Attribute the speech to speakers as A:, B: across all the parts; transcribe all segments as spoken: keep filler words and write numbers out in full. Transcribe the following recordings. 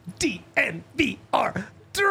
A: D N V R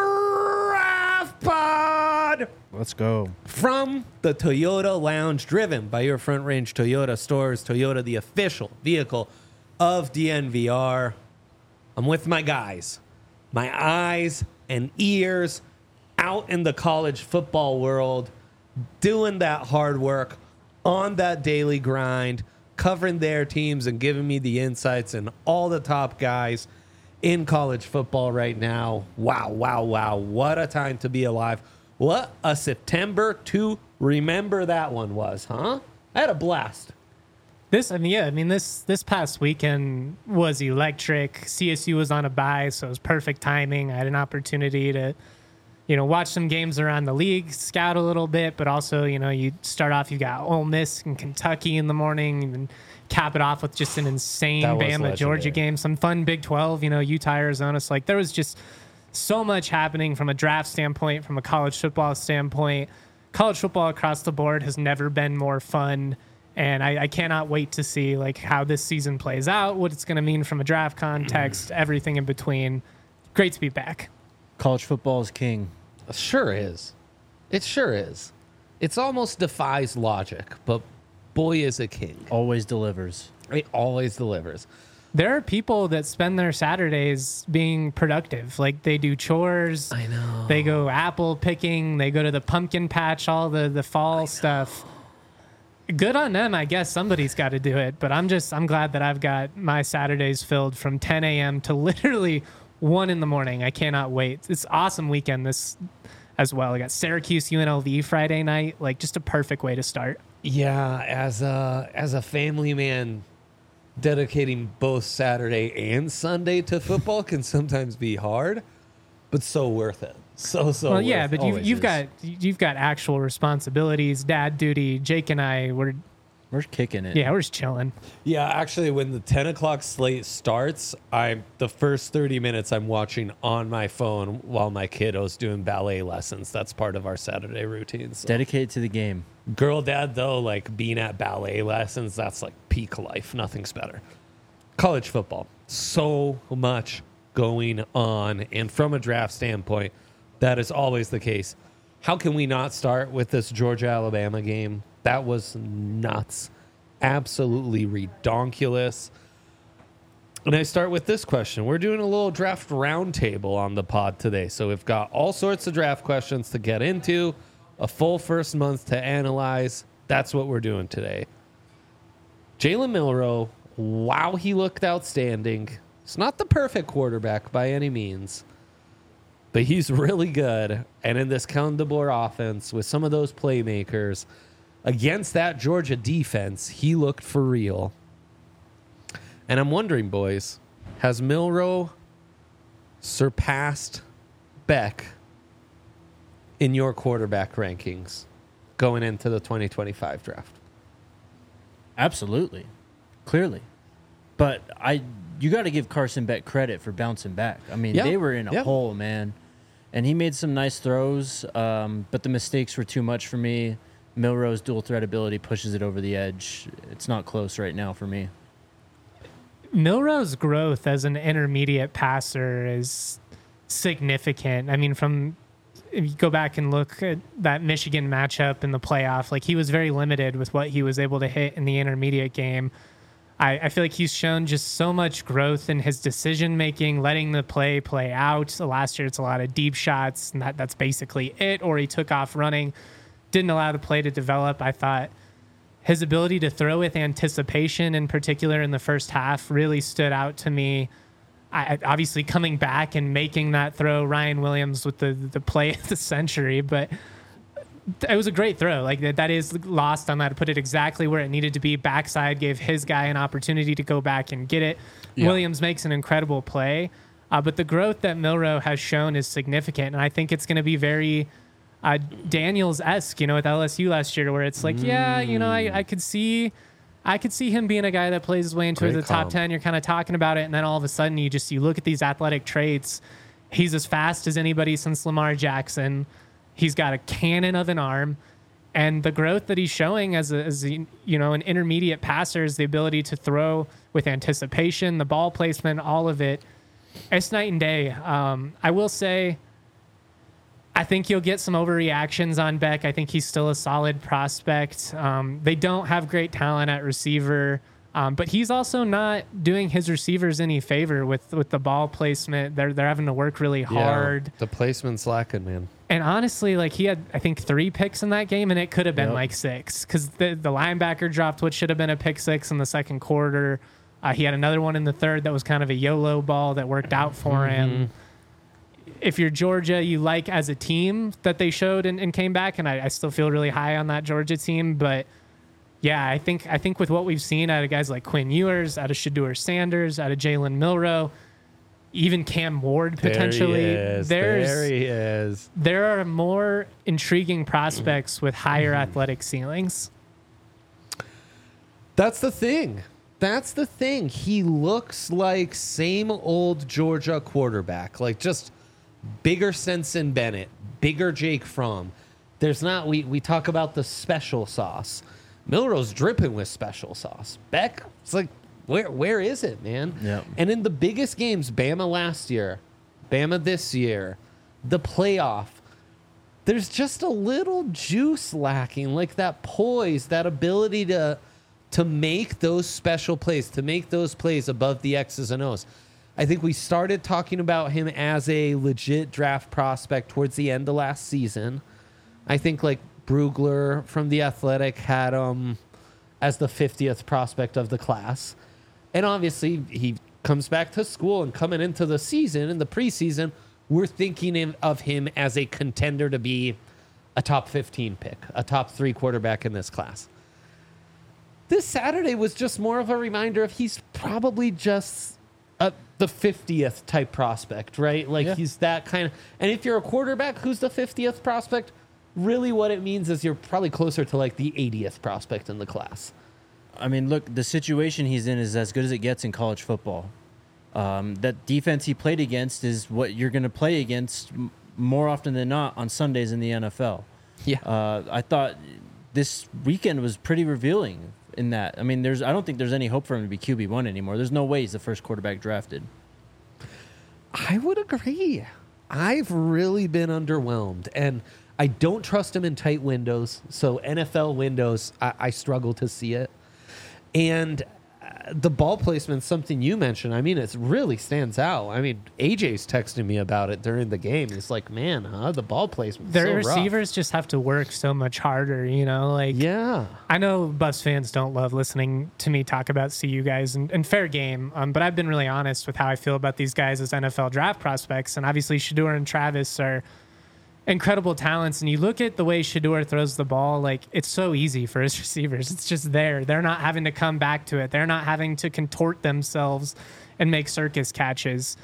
A: Draft Pod.
B: Let's go.
A: From the Toyota Lounge, driven by your Front Range Toyota stores, Toyota, the official vehicle of D N V R. I'm with my guys, my eyes and ears out in the college football world, doing that hard work on that daily grind, covering their teams and giving me the insights and all the top guys in college football right now. Wow, wow, wow. What a time to be alive. What a September to remember that one was, huh? I had a blast.
C: This, I mean, yeah, I mean, this this past weekend was electric. C S U was on a bye, so it was perfect timing. I had an opportunity to, you know, watch some games around the league, scout a little bit, but also, you know, you start off, you got Ole Miss and Kentucky in the morning, and cap it off with just an insane Bama Georgia game, some fun Big twelve, you know, Utah, Arizona. So, like, there was just so much happening from a draft standpoint, from a college football standpoint. College football across the board has never been more fun. And I, I cannot wait to see like how this season plays out, what it's going to mean from a draft context, everything in between. Great to be back.
B: College football is king.
A: It sure is. It sure is. It's almost defies logic, but boy is a king.
B: Always delivers.
A: It always delivers.
C: There are people that spend their Saturdays being productive. Like they do chores.
A: I know.
C: They go apple picking. They go to the pumpkin patch, all the, the fall stuff. Good on them. I guess somebody's got to do it. But I'm just, I'm glad that I've got my Saturdays filled from ten a.m. to literally one in the morning. I cannot wait. It's awesome weekend this as well. I got Syracuse U N L V Friday night. Like just a perfect way to start.
A: Yeah, as a, as a family man, dedicating both Saturday and Sunday to football can sometimes be hard, but so worth it. So, so
C: well, yeah,
A: worth
C: but
A: it.
C: you've, you've
A: is.
C: got you've got actual responsibilities, dad duty. Jake and I, we're
B: We're kicking it.
C: yeah, we're just chilling.
A: Yeah, actually, when the ten o'clock slate starts, I'm the first thirty minutes I'm watching on my phone while my kiddo's doing ballet lessons. That's part of our Saturday routine. So.
B: Dedicated to the game.
A: Girl dad, though, like being at ballet lessons, that's like peak life. Nothing's better. College football, so much going on. And from a draft standpoint, that is always the case. How can we not start with this Georgia-Alabama game? That was nuts. Absolutely redonkulous. And I start with this question. We're doing a little draft roundtable on the pod today. So we've got all sorts of draft questions to get into, a full first month to analyze. That's what we're doing today. Jalen Milroe, wow, he looked outstanding. It's not the perfect quarterback by any means, but he's really good. And in this Kellen DeBoer offense with some of those playmakers against that Georgia defense, he looked for real. And I'm wondering, boys, has Milroe surpassed Beck in your quarterback rankings going into the twenty twenty-five draft?
B: Absolutely. Clearly. But I you got to give Carson Beck credit for bouncing back. I mean,
A: Yeah.
B: they were in a
A: Yeah.
B: hole, man. And he made some nice throws, um, but the mistakes were too much for me. Milroe's dual threat ability pushes it over the edge. It's not close right now for me.
C: Milroe's growth as an intermediate passer is significant. I mean, from if you go back and look at that Michigan matchup in the playoff, like he was very limited with what he was able to hit in the intermediate game. I, I feel like he's shown just so much growth in his decision making, letting the play play out. So last year, it's a lot of deep shots, and that, that's basically it. Or he took off running, didn't allow the play to develop. I thought his ability to throw with anticipation, in particular in the first half, really stood out to me. I, obviously, coming back and making that throw, Ryan Williams with the the play of the century, but it was a great throw. Like that, that is lost on that. To put it exactly where it needed to be, backside gave his guy an opportunity to go back and get it.
A: Yeah.
C: Williams makes an incredible play, uh, but the growth that Milroe has shown is significant, and I think it's going to be very uh, Daniels-esque, you know, with L S U last year, where it's like, mm. yeah, you know, I, I could see. I could see him being a guy that plays his way into
A: Great
C: the top
A: comp.
C: ten. You're kind of talking about it, and then all of a sudden you just you look at these athletic traits. He's as fast as anybody since Lamar Jackson. He's got a cannon of an arm, and the growth that he's showing as a, as a, you know, an intermediate passer is the ability to throw with anticipation, the ball placement, all of it. It's night and day. Um, I will say, I think you'll get some overreactions on Beck. I think he's still a solid prospect. Um, they don't have great talent at receiver, um, but he's also not doing his receivers any favor with, with the ball placement. They're they're having to work really hard.
A: Yeah, the placement's lacking, man.
C: And honestly, like he had, I think, three picks in that game, and it could have been
B: Yep.
C: like six because the, the linebacker dropped what should have been a pick six in the second quarter. Uh, he had another one in the third that was kind of a YOLO ball that worked out for him. If you're Georgia, you like as a team that they showed and, and came back, and I, I still feel really high on that Georgia team. But yeah, I think I think with what we've seen out of guys like Quinn Ewers, out of Shedeur Sanders, out of Jalen Milroe, even Cam Ward potentially,
A: There he is.
C: there's
A: there he is.
C: there are more intriguing prospects with higher athletic ceilings.
A: That's the thing. That's the thing. He looks like same old Georgia quarterback, like just bigger Sensen Bennett, bigger Jake Fromm. There's not, we, we talk about the special sauce. Milroe's dripping with special sauce. Beck, it's like, where where is it, man?
B: Yeah.
A: And in the biggest games, Bama last year, Bama this year, the playoff, there's just a little juice lacking, like that poise, that ability to to make those special plays, to make those plays above the X's and O's. I think we started talking about him as a legit draft prospect towards the end of last season. I think like Brugler from The Athletic had him as the fiftieth prospect of the class. And obviously he comes back to school, and coming into the season, in the preseason, we're thinking of him as a contender to be a top fifteen pick, a top three quarterback in this class. This Saturday was just more of a reminder of he's probably just a, the fiftieth type prospect, right? Like
B: Yeah.
A: he's that kind of, and if you're a quarterback who's the fiftieth prospect, really what it means is you're probably closer to like the eightieth prospect in the class.
B: I mean, look, the situation he's in is as good as it gets in college football. Um, that defense he played against is what you're going to play against m- more often than not on Sundays in the N F L.
A: Yeah.
B: Uh, I thought this weekend was pretty revealing in that. I mean, there's I don't think there's any hope for him to be Q B one anymore. There's no way he's the first quarterback drafted.
A: I would agree. I've really been underwhelmed, and I don't trust him in tight windows. So N F L windows, I, I struggle to see it. And uh, the ball placement, something you mentioned, I mean, it really stands out. I mean, A J's texting me about it during the game. He's like, man, huh? The ball placement.
C: Their
A: so rough.
C: receivers just have to work so much harder, you know? Like,
A: Yeah.
C: I know Buffs fans don't love listening to me talk about C U guys, and, and fair game, um, but I've been really honest with how I feel about these guys as N F L draft prospects. And obviously, Shedeur and Travis are incredible talents. And you look at the way Shedeur throws the ball, like, it's so easy for his receivers. It's just there. They're not having to come back to it, they're not having to contort themselves and make circus catches.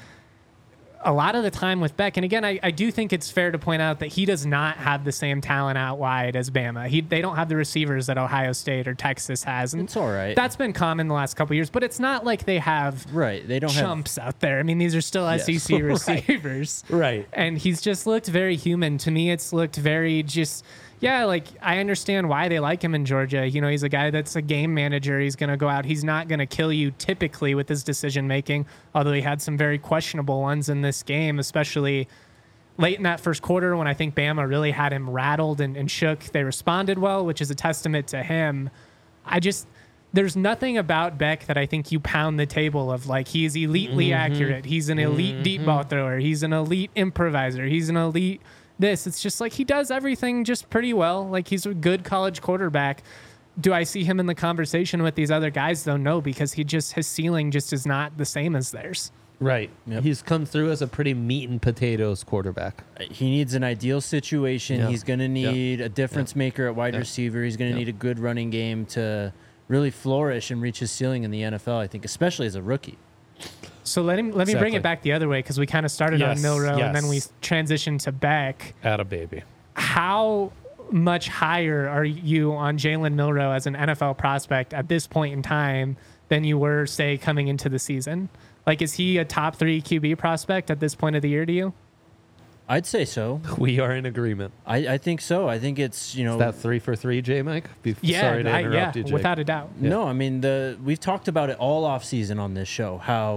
C: A lot of the time with Beck, and again, I, I do think it's fair to point out that he does not have the same talent out wide as Bama. He, they don't have the receivers that Ohio State or Texas has. And
B: It's all right.
C: that's been common the last couple of years, but it's not like they have
B: Right. They don't
C: chumps out there. I mean, these are still
B: Yes.
C: S E C
A: Right.
C: receivers.
A: Right.
C: And he's just looked very human. To me, it's looked very just, yeah, like I understand why they like him in Georgia. You know, he's a guy that's a game manager. He's going to go out. He's not going to kill you typically with his decision making, although he had some very questionable ones in this game, especially late in that first quarter when I think Bama really had him rattled and, and shook. They responded well, which is a testament to him. I just, there's nothing about Beck that I think you pound the table of like he's elitely
A: Mm-hmm.
C: accurate. He's an elite deep ball thrower. He's an elite improviser. He's an elite this. It's just like he does everything just pretty well. Like he's a good college quarterback. Do I see him in the conversation with these other guys though? No, because he just, his ceiling just is not the same as theirs.
A: Right.
B: Yep.
A: He's come through as a pretty meat and potatoes quarterback.
B: He needs an ideal situation.
A: Yeah.
B: He's going to need a difference maker at wide
A: Yeah.
B: receiver. He's going to
A: Yeah.
B: need a good running game to really flourish and reach his ceiling in the N F L, I think, especially as a rookie.
C: So let him let me bring
A: Exactly.
C: it back the other way because we kind of started
A: Yes,
C: on Milroe and then we
A: yes.
C: transitioned to Beck.
A: Atta baby.
C: How much higher are you on Jalen Milroe as an N F L prospect at this point in time than you were, say, coming into the season? Like, is he a top three Q B prospect at this point of the year to you?
B: I'd say so.
A: We are in agreement.
B: I, I think so. I think it's, you know,
A: Is that three for three, J Mike? Be-
C: Yeah,
A: Sorry to
C: I,
A: interrupt
C: yeah,
A: you, Jake.
C: without a doubt.
B: no, I mean, the we've talked about it all off season on this show, how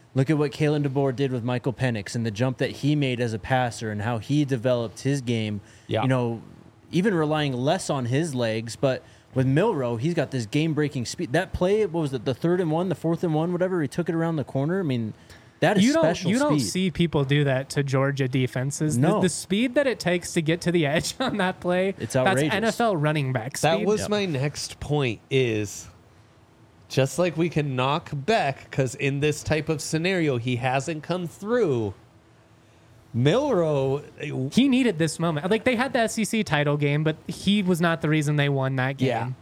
B: Look at what Kalen DeBoer did with Michael Penix and the jump that he made as a passer and how he developed his game.
A: Yeah.
B: You know, even relying less on his legs, but with Milroe, he's got this game-breaking speed. That play, what was it, the third and one, the fourth and one, whatever, he took it around the corner. I mean, that is
C: you don't,
B: special
C: you
B: speed.
C: don't see people do that to Georgia defenses.
B: No.
C: The, the speed that it takes to get to the edge on that play,
B: It's outrageous.
C: that's N F L running back speed.
A: That was
B: Yep.
A: my next point is just like we can knock Beck because in this type of scenario, he hasn't come through. Milroe,
C: He needed this moment. Like, they had the S E C title game, but he was not the reason they won that game.
A: Yeah.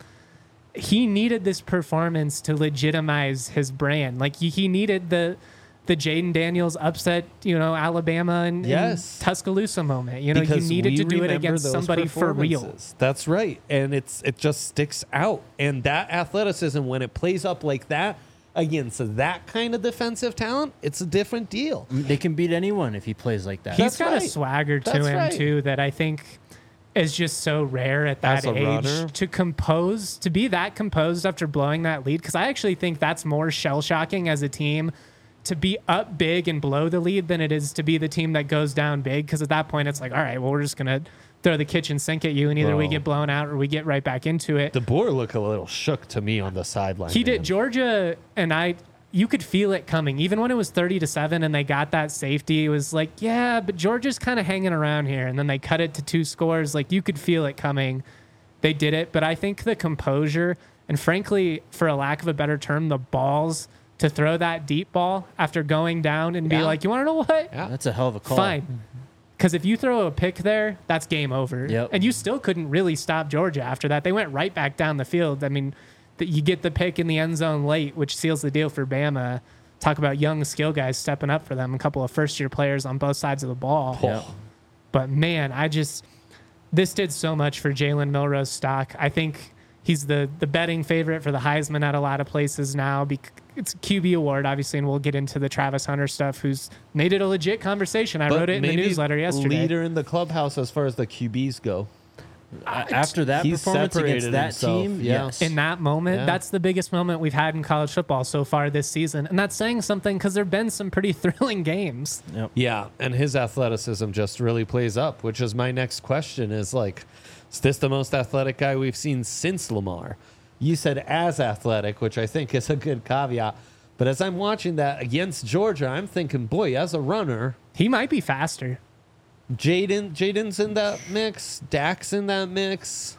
C: He needed this performance to legitimize his brand. Like, he he needed the the Jaden Daniels upset, you know, Alabama and,
A: Yes.
C: and Tuscaloosa moment. You know, you
A: because
C: needed
A: we
C: to do it
A: remember
C: against
A: those
C: somebody for real.
A: performances. That's right, and it's it just sticks out. And that athleticism, when it plays up like that against that kind of defensive talent, it's a different deal.
B: They can beat anyone if he plays like that.
C: He's
A: That's
C: got
A: right.
C: a swagger to
A: That's
C: him
A: right.
C: too that I think is just so rare at that
A: As a
C: age
A: runner.
C: to compose, to be that composed after blowing that lead. Because I actually think that's more shell shocking as a team to be up big and blow the lead than it is to be the team that goes down big. Because at that point, it's like, all right, well, we're just gonna throw the kitchen sink at you, and either we
A: Bro.
C: get blown out or we get right back into it.
A: DeBoer looked a little shook to me on the sideline.
C: He
A: man.
C: did. Georgia and I, you could feel it coming. Even when it was thirty to seven and they got that safety, it was like, yeah, but Georgia's kind of hanging around here. And then they cut it to two scores. Like, you could feel it coming. They did it. But I think the composure and, frankly, for a lack of a better term, the balls to throw that deep ball after going down and be
A: Yeah.
C: like, you want to know what?
A: Yeah.
B: That's a hell of a call.
C: Fine. Because if you throw a pick there, that's game over.
B: Yep.
C: And you still couldn't really stop Georgia after that. They went right back down the field. I mean, that you get the pick in the end zone late, which seals the deal for Bama. Talk about young skill guys stepping up for them. A couple of first-year players on both sides of the ball.
B: Yeah.
C: But, man, I just – this did so much for Jalen Milroe's stock. I think he's the, the betting favorite for the Heisman at a lot of places now. Bec- It's a Q B award, obviously, and we'll get into the Travis Hunter stuff, who's made it a legit conversation. I
A: But
C: wrote it in the
A: maybe
C: newsletter yesterday.
A: Leader in the clubhouse as far as the Q Bs go.
B: After that
A: He's
B: performance against
A: separated
B: that
A: himself,
B: team,
A: yeah.
B: yes.
C: In that moment,
A: Yeah.
C: that's the biggest moment we've had in college football so far this season. And that's saying something because there have been some pretty thrilling games.
B: Yep.
A: Yeah, and his athleticism just really plays up, which is my next question is like, is this the most athletic guy we've seen since Lamar? You said as athletic, which I think is a good caveat. But as I'm watching that against Georgia, I'm thinking, boy, as a runner,
C: He might be faster.
A: Jaden, Jaden's in that mix, Dak's in that mix,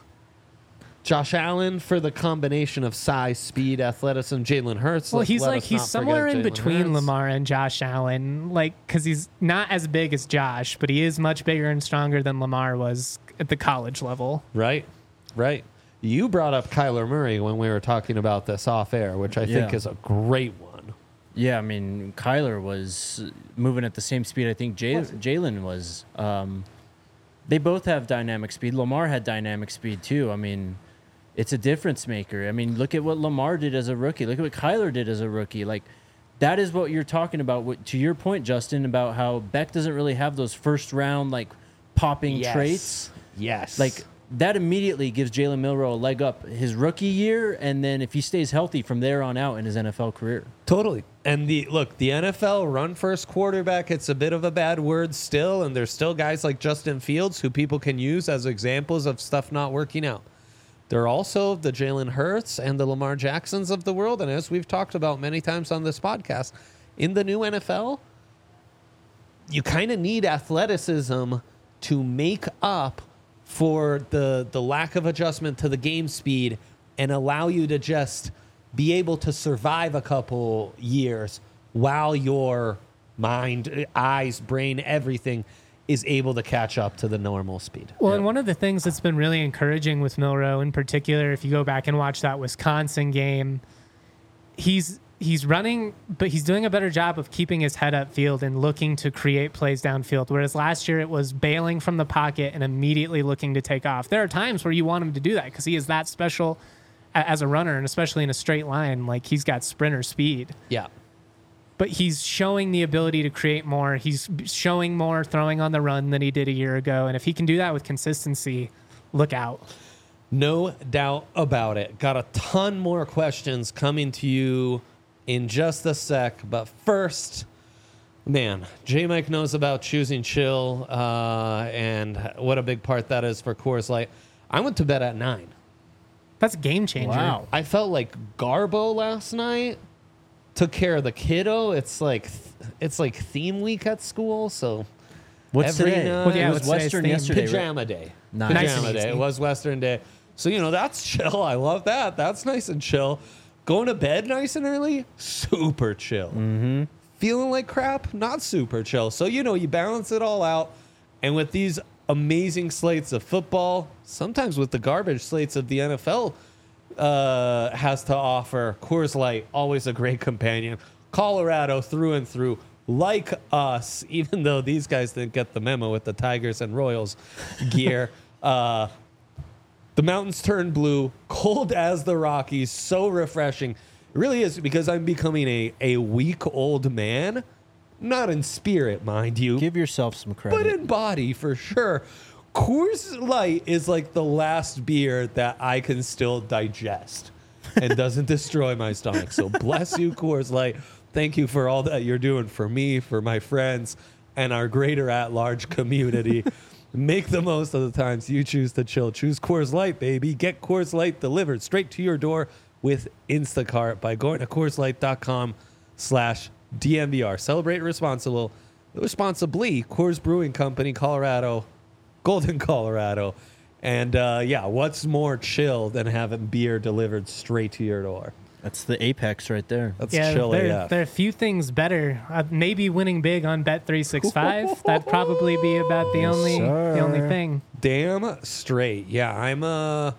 A: Josh Allen for the combination of size, speed, athleticism, Jalen Hurts.
C: Well,
A: let-
C: he's
A: let
C: like,
A: us
C: he's
A: not
C: somewhere
A: forget
C: in
A: Jalen
C: between
A: Hurts.
C: Lamar and Josh Allen. Like, because he's not as big as Josh, but he is much bigger and stronger than Lamar was at the college level.
A: Right, right. You brought up Kyler Murray when we were talking about this off air, which I think
B: Yeah.
A: is a great one.
B: Yeah, I mean, Kyler was moving at the same speed I think Jay- Jalen was. Um, they both have dynamic speed. Lamar had dynamic speed too. I mean, it's a difference maker. I mean, look at what Lamar did as a rookie. Look at what Kyler did as a rookie. Like, that is what you're talking about. What, to your point, Justin, about how Beck doesn't really have those first round, like, popping traits.
A: Yes.
B: Like, that immediately gives Jalen Milroe a leg up his rookie year, and then if he stays healthy from there on out in his N F L career.
A: Totally. And the look, the N F L run first quarterback, it's a bit of a bad word still, and there's still guys like Justin Fields who people can use as examples of stuff not working out. There are also the Jalen Hurts and the Lamar Jacksons of the world, and as we've talked about many times on this podcast, in the new N F L, you kind of need athleticism to make up for the the lack of adjustment to the game speed and allow you to just be able to survive a couple years while your mind, eyes, brain, everything is able to catch up to the normal speed.
C: Well, and one of the things that's been really encouraging with Milroe in particular, if you go back and watch that Wisconsin game, he's he's running, but he's doing a better job of keeping his head upfield and looking to create plays downfield. Whereas last year it was bailing from the pocket and immediately looking to take off. There are times where you want him to do that because he is that special a- as a runner, and especially in a straight line, like he's got sprinter speed.
A: Yeah.
C: But he's showing the ability to create more. He's showing more throwing on the run than he did a year ago. And if he can do that with consistency, look out.
A: No doubt about it. Got a ton more questions coming to you in just a sec. But first, man, J-Mike knows about choosing chill uh, and what a big part that is for Coors Light. I went to bed at nine.
C: That's a game changer.
B: Wow.
A: I felt like Garbo last night. Took care of the kiddo. It's like it's like theme week at school, so
B: What's
A: every
B: today?
A: night-
C: Well, yeah,
B: it
C: what's
B: was
C: today's
B: Western
C: theme?
B: yesterday. right?
A: pajama day.
B: Nice.
C: Nice
A: Pajama
C: and
A: day.
C: easy.
A: It was Western day. So, you know, that's chill. I love that. That's nice and chill. Going to bed nice and early, super chill. Mm-hmm. Feeling like crap, not super chill. So, you know, you balance it all out. And with these amazing slates of football, sometimes with the garbage slates of the N F L uh, has to offer, Coors Light, always a great companion. Colorado through and through, like us, even though these guys didn't get the memo with the Tigers and Royals gear. uh, the mountains turn blue, cold as the Rockies, so refreshing. It really is, because I'm becoming a, a week-old man. Not in spirit, mind you,
B: Give yourself some credit.
A: but in body for sure. Coors Light is like the last beer that I can still digest and doesn't destroy my stomach. So bless you, Coors Light. Thank you for all that you're doing for me, for my friends, and our greater at-large community. Make the most of the times you choose to chill. Choose Coors Light, baby. Get Coors Light delivered straight to your door with Instacart by going to CoorsLight.com slash DNVR. Celebrate responsible, responsibly. Coors Brewing Company, Colorado, Golden, Colorado. And uh, yeah, what's more chill than having beer delivered straight to your door?
B: That's the apex right there.
A: That's
C: Yeah,
A: chill
C: there,
A: A F.
C: there are a few things better. Uh, maybe winning big on Bet three sixty-five. That'd probably be about the only
B: sir.
C: the only thing.
A: Damn straight. Yeah, I'm uh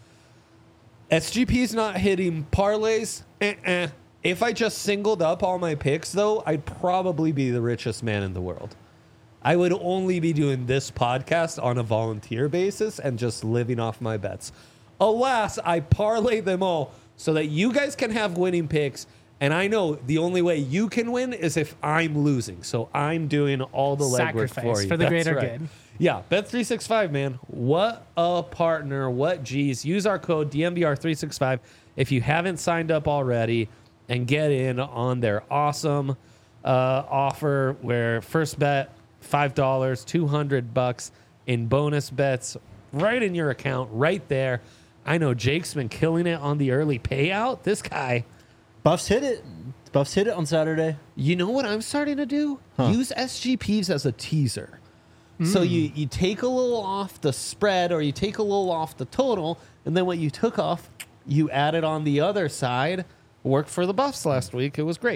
A: S G P's not hitting parlays. Eh-eh. If I just singled up all my picks, though, I'd probably be the richest man in the world. I would only be doing this podcast on a volunteer basis and just living off my bets. Alas, I parlay them all so that you guys can have winning picks. And I know the only way you can win is if I'm losing. So I'm doing all the legwork
C: Sacrifice
A: for you.
C: for the
A: That's
C: greater
A: right.
C: good.
A: Yeah, Bet three sixty-five, man. What a partner. What G's. Use our code D M V R three sixty-five if you haven't signed up already and get in on their awesome uh, offer where first bet five dollars, two hundred bucks in bonus bets right in your account right there. I know Jake's been killing it on the early payout. This guy,
B: Buffs hit it. Buffs hit it on Saturday.
A: you know what I'm starting to do?
B: Huh.
A: Use S G Ps as a teaser. So you, you take a little off the spread or you take a little off the total, and then what you took off, you added on the other side. Worked for the Buffs last week. It was great.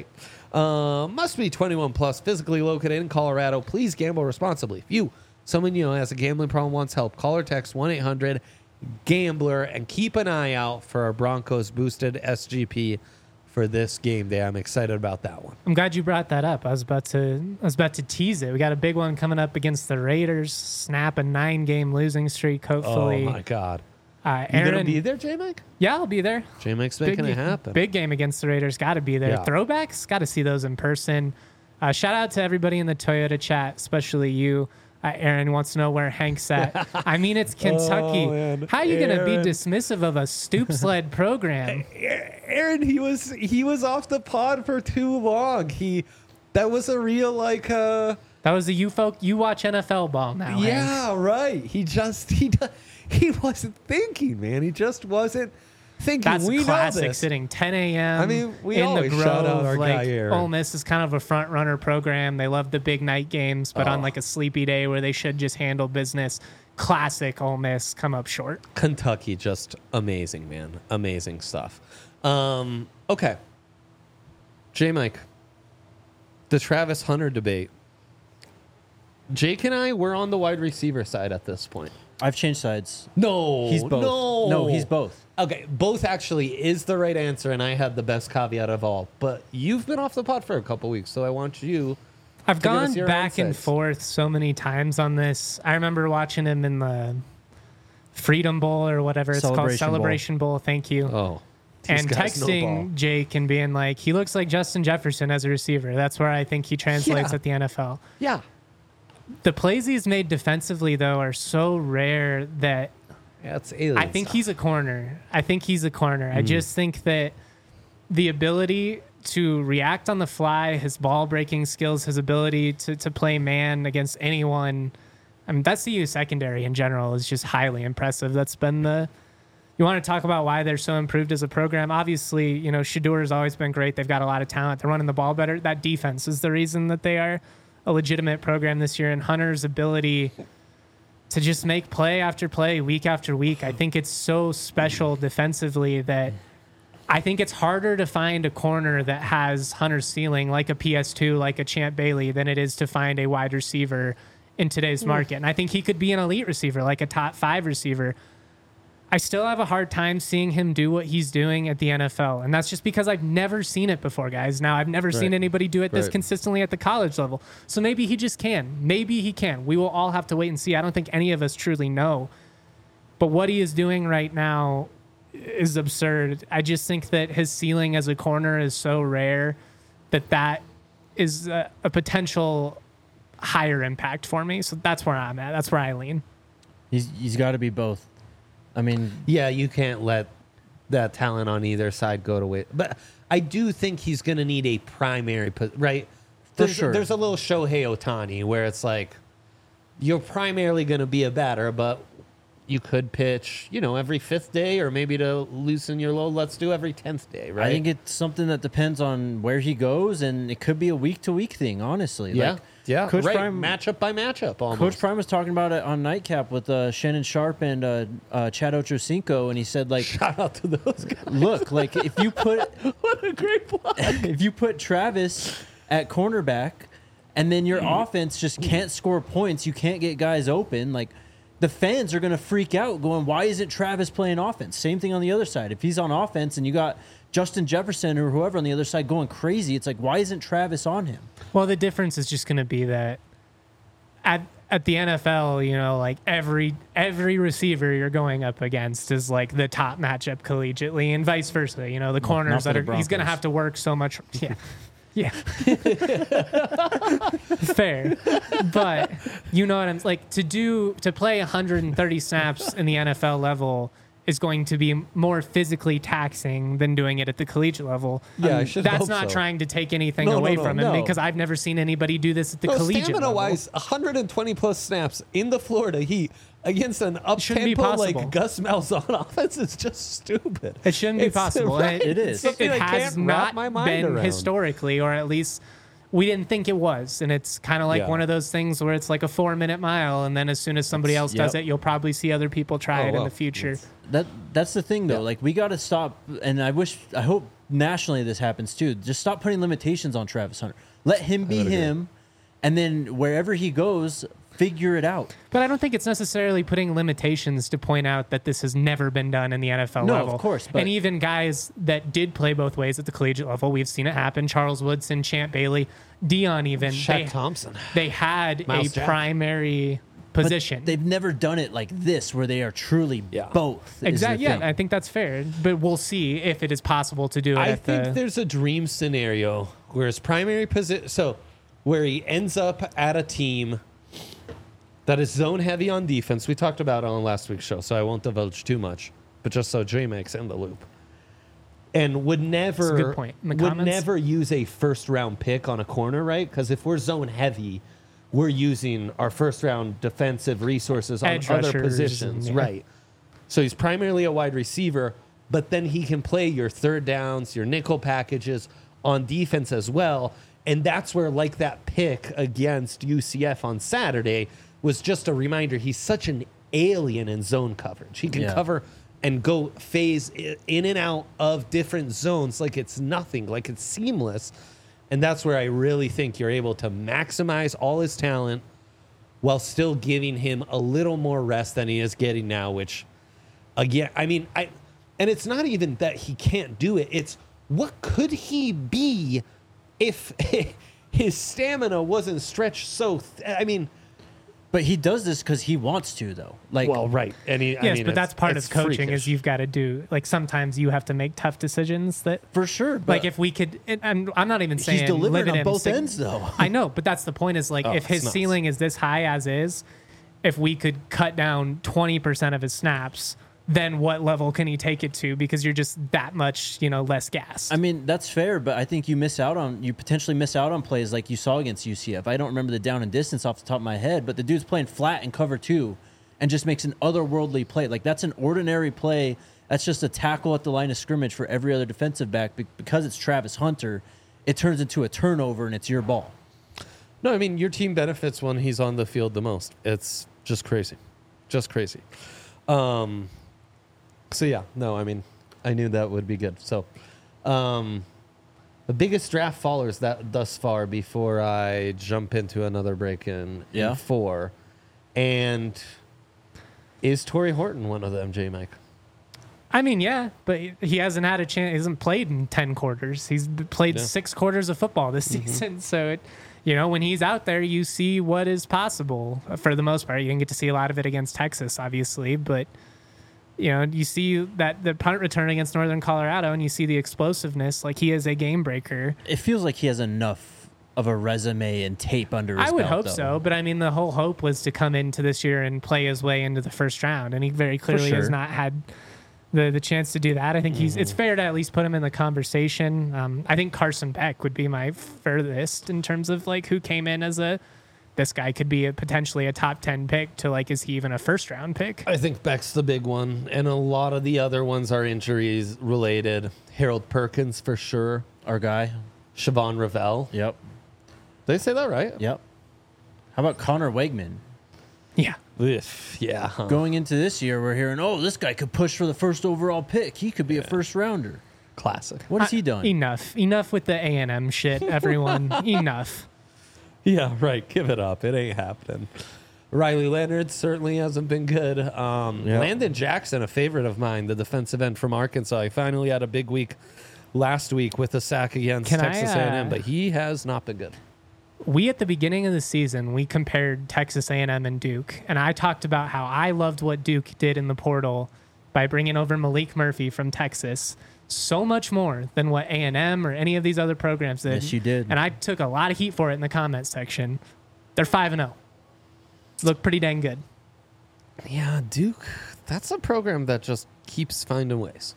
A: Uh, must be twenty-one plus, physically located in Colorado. Please gamble responsibly. If you, someone you know, has a gambling problem, wants help, call or text one eight hundred gambler and keep an eye out for our Broncos boosted S G P for this game day. I'm excited about that one.
C: I'm glad you brought that up. I was about to I was about to tease it. We got a big one coming up against the Raiders. Snap a nine game losing streak. Hopefully,
A: Oh my God.
C: uh,
A: You
C: Aaron.
A: gonna be there, J-Mike?
C: Yeah, I'll be there.
A: J-Mike's making
C: big,
A: it happen.
C: Big game against the Raiders. Got to be there.
A: Yeah.
C: Throwbacks. Got to see those in person. Uh, shout out to everybody in the Toyota chat, especially you. Uh, Aaron wants to know where Hank's at. I mean, it's Kentucky.
A: Oh, man.
C: How are you going to be
A: Aaron.
C: dismissive of a stoop sled program?
A: Aaron, he was he was off the pod for too long. He that was a real like uh
C: That was the you folk. You watch N F L ball now. Hank.
A: yeah, right. He just he he wasn't thinking, man. He just wasn't thinking.
C: That's
A: we know
C: classic.
A: this.
C: Sitting ten a.m.
A: I mean, we
C: in the
A: always
C: Grove.
A: shout out our
C: like,
A: guy Aaron.
C: Ole Miss is kind of a front runner program. They love the big night games, but on
A: Oh.
C: like a sleepy day where they should just handle business. Classic Ole Miss come up short.
A: Kentucky, just amazing, man. Amazing stuff. Um, okay. J Mike. The Travis Hunter debate. Jake and I, we're on the wide receiver side at this point.
B: I've changed sides.
A: No,
B: He's both.
A: No,
B: No, he's both.
A: Okay, both actually is the right answer, and I had the best caveat of all. But you've been off the pod for a couple weeks, so I want you.
C: I've
A: give us
C: gone
A: your
C: back and
A: insights.
C: forth so many times on this. I remember watching him in the Freedom Bowl or whatever it's called,
B: Celebration Bowl.
C: Celebration Bowl. Thank you.
A: Oh, these
C: and
A: guys know ball.
C: texting Jake and being like, he looks like Justin Jefferson as a receiver. That's where I think he translates
A: Yeah.
C: at the N F L.
A: Yeah,
C: The plays he's made defensively, though, are so rare that
A: that's alien.
C: I think
A: stuff.
C: he's a corner. I think he's a corner.
A: Hmm.
C: I just think that the ability to react on the fly, his ball breaking skills, his ability to, to play man against anyone. I mean, that's the U secondary in general is just highly impressive. That's been the, you want to talk about why they're so improved as a program. Obviously, you know, Shedeur has always been great. They've got a lot of talent. They're running the ball better. That defense is the reason that they are a legitimate program this year. And Hunter's ability to just make play after play, week after week, I think it's so special defensively that I think it's harder to find a corner that has Hunter's ceiling, like a P S two, like a Champ Bailey, than it is to find a wide receiver in today's market. And I think he could be an elite receiver, like a top five receiver. I still have a hard time seeing him do what he's doing at the N F L. And that's just because I've never seen it before, guys. Now, I've never right. seen anybody do it this right. consistently at the college level. So maybe he just can. Maybe he can. We will all have to wait and see. I don't think any of us truly know. But what he is doing right now is absurd. I just think that his ceiling as a corner is so rare that that is a, a potential higher impact for me. So that's where I'm at. That's where I lean.
B: He's he's got to be both. I mean,
A: yeah, you can't let that talent on either side go to waste. But I do think he's going to need a primary, right? There's,
B: For sure.
A: There's a little Shohei Ohtani where it's like you're primarily going to be a batter, but you could pitch, you know, every fifth day, or maybe to loosen your load, let's do every tenth day, right?
B: I think it's something that depends on where he goes, and it could be a week-to-week thing, honestly.
A: Yeah,
B: like,
A: yeah,
B: Coach
A: right.
B: Prime,
A: matchup by matchup almost.
B: Coach Prime was talking about it on Nightcap with uh, Shannon Sharp and uh, uh, Chad Ochocinco, and he said, like...
A: Shout out to those guys.
B: Look, like, if you put...
A: What a great plug.
B: If you put Travis at cornerback, and then your offense just can't score points, you can't get guys open, like... The fans are going to freak out going, why isn't Travis playing offense? Same thing on the other side. If he's on offense and you got Justin Jefferson or whoever on the other side going crazy, it's like, why isn't Travis on him?
C: Well, the difference is just going to be that at at the N F L, you know, like every every receiver you're going up against is like the top matchup collegiately and vice versa. You know, the corners that are, he's going to have to work so much. Yeah. Yeah. Fair. But you know what I'm like to do to play one hundred thirty snaps in the N F L level is going to be more physically taxing than doing it at the collegiate level.
A: Yeah,
C: um,
A: I should
C: That's
A: hope
C: not
A: so.
C: trying to take anything
A: no,
C: away
A: no, no,
C: from him
A: no.
C: because I've never seen anybody do this at the
A: no,
C: collegiate
A: stamina
C: level.
A: wise, one hundred twenty plus snaps in the Florida Heat against an up tempo like Gus Malzahn offense is just stupid.
C: It shouldn't be
A: it's,
C: possible.
A: Right,
C: it,
B: it is.
C: It, it has not been
A: around.
C: historically, or at least we didn't think it was. And it's kind of like
A: yeah.
C: one of those things where it's like a four minute mile. And then as soon as somebody else
B: yep.
C: does it, you'll probably see other people try
A: oh,
C: it
A: well.
C: in the future.
A: It's,
B: That That's the thing, though.
A: Yeah.
B: Like, we got to stop, and I wish, I hope nationally this happens too. Just stop putting limitations on Travis Hunter. Let him be him, and then wherever he goes, figure it out.
C: But I don't think it's necessarily putting limitations to point out that this has never been done in the N F L
B: No,
C: level.
B: of course, but-
C: and even guys that did play both ways at the collegiate level, we've seen it happen. Charles Woodson, Champ Bailey, Dion even.
A: Shaq
C: they,
A: Thompson.
C: They had
A: Miles
C: a
A: Jack.
C: primary position.
B: But they've never done it like this, where they are truly
A: Yeah.
B: both.
C: Exactly. Yeah, I think that's fair. But we'll see if it is possible to do it
A: I
C: at
A: think
C: the...
A: there's a dream scenario where his primary position, so where he ends up at a team that is zone heavy on defense. We talked about it on last week's show, so I won't divulge too much, but just so J-Max in the loop. And would never,
C: That's a good point. In the
A: would
C: comments?
A: never use a first round pick on a corner, right? Because if we're zone heavy, we're using our first round defensive resources on
C: Edge
A: other
C: rushers
A: positions,
C: and, yeah.
A: right? So he's primarily a wide receiver, but then he can play your third downs, your nickel packages on defense as well. And that's where, like that pick against U C F on Saturday, was just a reminder he's such an alien in zone coverage. He can
B: Yeah.
A: cover and go phase i- in and out of different zones like it's nothing, like it's seamless. And that's where I really think you're able to maximize all his talent while still giving him a little more rest than he is getting now, which, again, I mean, I, and it's not even that he can't do it. It's what could he be if his stamina wasn't stretched so, th- I mean,
B: But he does this because he wants to, though. Like,
A: well, right. And he,
C: Yes,
A: I mean,
C: but that's
A: it's-
C: part
A: it's
C: of coaching
A: freakish.
C: is you've got to do, like sometimes you have to make tough decisions that,
B: for sure. But
C: like if we could, and I'm, I'm not even saying
B: he's delivering
C: limit
B: on
C: him
B: both
C: sig-
B: ends, though.
C: I know, but that's the point is like
A: Oh,
C: if his
A: it's nuts.
C: ceiling is this high as is, if we could cut down twenty percent of his snaps then what level can he take it to? Because you're just that much, you know, less gas.
B: I mean, that's fair, but I think you miss out on you potentially miss out on plays like you saw against U C F. I don't remember the down and distance off the top of my head, but the dude's playing flat in cover two and just makes an otherworldly play. Like, that's an ordinary play. That's just a tackle at the line of scrimmage for every other defensive back. Be- because it's Travis Hunter, it turns into a turnover and it's your ball.
A: No, I mean, your team benefits when he's on the field the most. It's just crazy. Just crazy. Um, so, yeah, no, I mean, I knew that would be good. So, um, the biggest draft fallers that thus far before I jump into another break in,
B: Yeah.
A: in four. And is Torrey Horton one of them, J-Mike?
C: I mean, yeah, but he hasn't had a chance. He hasn't played in ten quarters. He's played
A: Yeah.
C: six quarters of football this
A: Mm-hmm.
C: season. So, it, you know, when he's out there, you see what is possible for the most part. You didn't get to see a lot of it against Texas, obviously, but, you know, you see that the punt return against Northern Colorado and you see the explosiveness. Like, he is a game breaker.
B: It feels like he has enough of a resume and tape under his
C: I would
B: belt,
C: hope
B: though.
C: so, but I mean, the whole hope was to come into this year and play his way into the first round, and he very clearly has
B: sure.
C: not had the the chance to do that. I think he's it's fair to at least put him in the conversation. Um, I think Carson Beck would be my furthest in terms of like who came in as a this guy could be a potentially a top ten pick to like is he even a first round pick?
A: I think Beck's the big one, and a lot of the other ones are injuries related. Harold Perkins for sure.
B: Our guy.
A: Siobhan Ravel.
B: Yep.
A: Did they say that right?
B: Yep. How about Connor Wegman?
C: Yeah.
A: Ugh, yeah. huh.
B: Going into this year, we're hearing, oh, this guy could push for the first overall pick. He could be a first rounder.
A: Classic.
B: What has he done?
C: Enough. Enough with the A and M shit, everyone. Enough.
A: Yeah, right. Give it up. It ain't happening. Riley Leonard certainly hasn't been good. Um,
B: Yep.
A: Landon Jackson, a favorite of mine, the defensive end from Arkansas. He finally had a big week last week with a sack against
C: Can I,
A: Texas A and M,
C: uh,
A: but he has not been good.
C: We at the beginning of the season we compared Texas A and M and Duke, and I talked about how I loved what Duke did in the portal by bringing over Malik Murphy from Texas so much more than what A and M or any of these other programs did.
B: Yes, you did.
C: And I took a lot of heat for it in the comments section. They're five and zero. Look pretty dang good.
A: Yeah, Duke, that's a program that just keeps finding ways.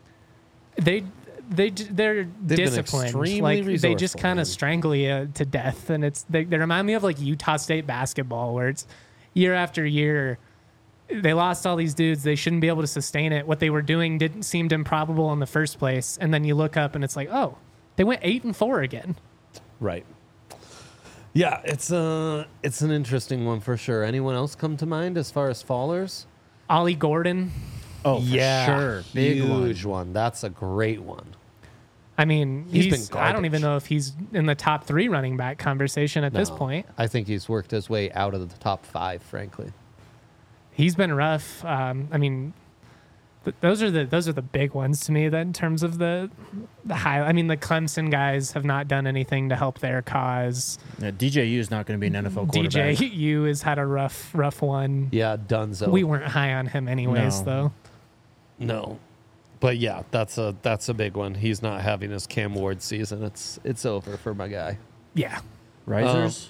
C: They they they're
A: been
C: disciplined.
A: extremely
C: Like they just
A: resourceful,
C: kind
A: man.
C: of strangle you to death, and it's they, they remind me of like Utah State basketball, where it's year after year. They lost all these dudes. They shouldn't be able to sustain it. What they were doing didn't seem improbable in the first place, and then you look up and it's like, oh, they went eight and four again.
A: Right. Yeah, it's uh it's an interesting one for sure. Anyone else come to mind as far as fallers?
C: Ollie Gordon.
B: Oh, for sure. Big one.
A: huge one. That's a great one.
C: I mean,
A: He's
C: he's,
A: been
C: I don't even
A: garbage.
C: know if he's in the top three running back conversation at this
A: No,
C: point.
A: I think he's worked his way out of the top five, frankly.
C: He's been rough. Um, I mean, th- those are the those are the big ones to me. That in terms of the the high. I mean, the Clemson guys have not done anything to help their cause.
B: Yeah, D J U is not going to be an N F L
C: D
B: quarterback.
C: J U has had a rough rough one.
A: Yeah, Dunzo.
C: We weren't high on him anyways,
B: No.
C: though.
A: no. But yeah, that's a that's a big one. He's not having his Cam Ward season. It's it's over for my guy.
C: Yeah.
B: Risers?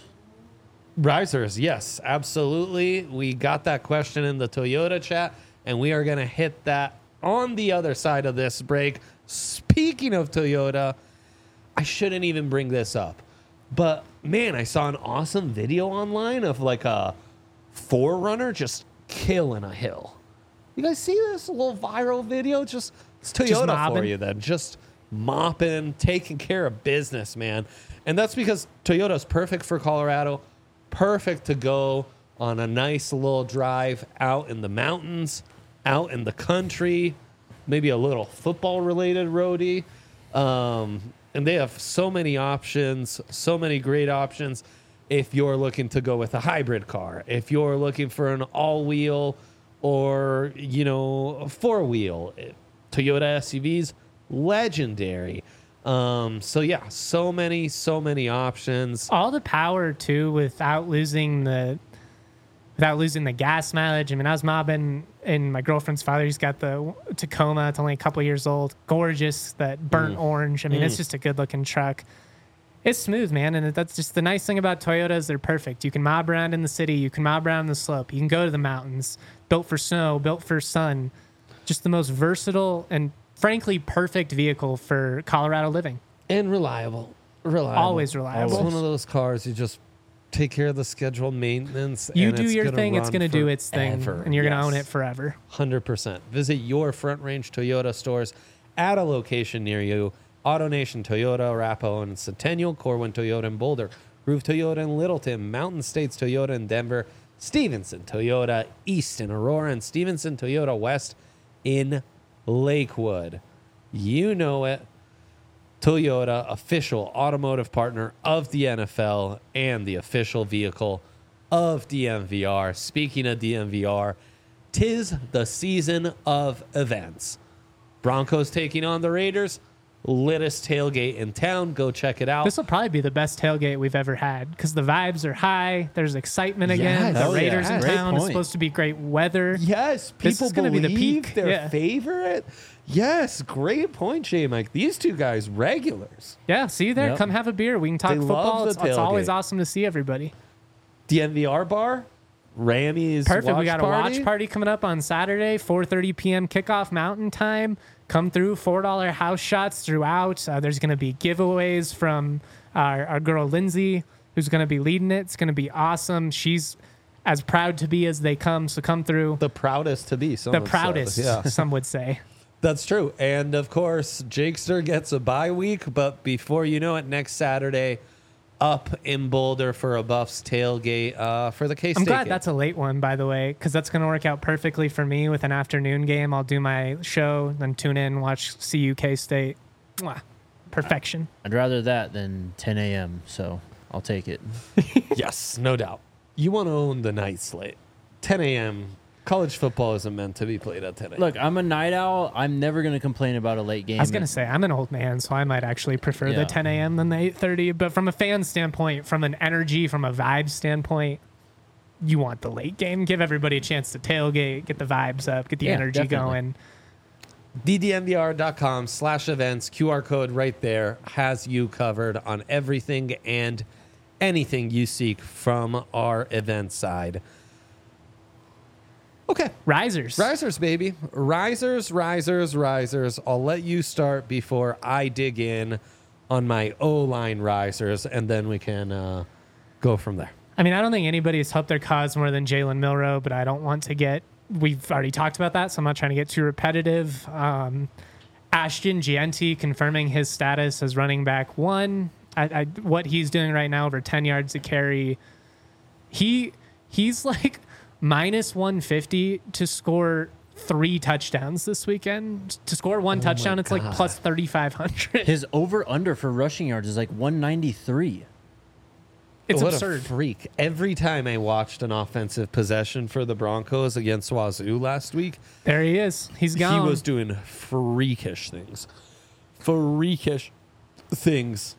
A: Risers, yes, absolutely. We got that question in the Toyota chat, and we are going to hit that on the other side of this break. Speaking of Toyota, I shouldn't even bring this up, but man, I saw an awesome video online of like a four runner just killing a hill. You guys see this a little viral video? Just it's Toyota for
C: mobbing?
A: you then. Just mopping, taking care of business, man. And that's because Toyota's perfect for Colorado, perfect to go on a nice little drive out in the mountains, out in the country, maybe a little football related roadie. Um, and they have so many options, so many great options. If you're looking to go with a hybrid car, if you're looking for an all wheel or, you know, a four wheel, Toyota S U Vs, legendary. Um, so yeah, so many, so many options.
C: All the power too, without losing the without losing the gas mileage. I mean, I was mobbing, and my girlfriend's father, he's got the Tacoma. It's only a couple years old. Gorgeous, that burnt orange. I mean, it's just a good looking truck. It's smooth, man, and that's just the nice thing about Toyota is they're perfect. You can mob around in the city. You can mob around the slope. You can go to the mountains. Built for snow, built for sun. Just the most versatile and frankly perfect vehicle for Colorado living.
A: And reliable. Reliable.
C: Always reliable.
A: It's one of those cars you just take care of the scheduled maintenance.
C: You
A: and
C: do
A: it's
C: your
A: gonna
C: thing, it's
A: run
C: going to do its thing,
A: forever.
C: and you're going to
A: Yes.
C: own it forever.
A: one hundred percent. Visit your Front Range Toyota stores at a location near you. AutoNation Toyota, Arapahoe and Centennial, Corwin Toyota in Boulder, Groove Toyota in Littleton, Mountain States Toyota in Denver, Stevenson Toyota East in Aurora, and Stevenson Toyota West in Lakewood. You know it. Toyota, official automotive partner of the N F L and the official vehicle of D M V R. Speaking of D M V R, 'tis the season of events. Broncos taking on the Raiders. Littest tailgate in town. Go check it out.
C: This will probably be the best tailgate we've ever had because the vibes are high. There's excitement again.
A: Yes.
C: The
B: Oh, yeah.
C: Raiders in
B: Great
C: town. It's
B: point.
C: supposed to be great weather.
A: Yes,
C: This
A: people
C: is gonna be
A: believe
C: the peak.
A: their
C: Yeah.
A: favorite. Yes, great point, J Mike. These two guys, regulars.
C: Yeah, see you there.
B: Yep.
C: Come have a beer. We can talk
A: They love
C: football.
A: the
C: It's, it's always
A: tailgate.
C: awesome to see everybody.
A: D M V R bar, Rammy's
C: Perfect.
A: watch
C: We got a
A: party.
C: watch party coming up on Saturday, four thirty p.m. kickoff Mountain Time. Come through, four dollar house shots throughout. Uh, there's going to be giveaways from our, our girl Lindsay, who's going to be leading it. It's going to be awesome. She's as proud to be as they come, so come through.
A: The proudest to be.
C: The
A: someone
C: proudest,
A: says. Yeah.
C: some would say.
A: That's true. And of course, Jakester gets a bye week, but before you know it, next Saturday, up in Boulder for a Buffs tailgate uh, for the K-State
C: I'm glad
A: game.
C: that's a late one, by the way, because that's going to work out perfectly for me with an afternoon game. I'll do my show, then tune in, watch C U K State. Mwah. Perfection.
B: I'd rather that than ten a.m., so I'll take it.
A: Yes, no doubt. You want to own the night slate. ten a.m. College football isn't meant to be played at ten a.m.
B: Look, I'm a night owl. I'm never going to complain about a late game.
C: I was going to say, I'm an old man, so I might actually prefer
B: Yeah.
C: the ten a.m. than the eight thirty. But from a fan standpoint, from an energy, from a vibe standpoint, you want the late game. Give everybody a chance to tailgate, get the vibes up, get the
B: Yeah,
C: energy
B: definitely.
C: going.
A: D D M V R dot com slash events, Q R code right there has you covered on everything and anything you seek from our event side. Okay.
C: Risers.
A: Risers, baby. Risers, risers, risers. I'll let you start before I dig in on my O-line risers, and then we can uh, go from there.
C: I mean, I don't think anybody's helped their cause more than Jalen Milroe, but I don't want to get. We've already talked about that, so I'm not trying to get too repetitive. Um, Ashton Gianti confirming his status as running back one. I, I, what he's doing right now, over ten yards a carry. He he's like minus one fifty to score three touchdowns this weekend. To score one
A: Oh
C: touchdown,
A: my
C: it's like
A: God.
C: plus thirty-five hundred.
B: His over-under for rushing yards is like one ninety-three.
C: It's
A: what
C: absurd.
A: A freak. Every time I watched an offensive possession for the Broncos against Wazoo last week,
C: There he is. He's gone.
A: he was doing freakish things. Freakish things.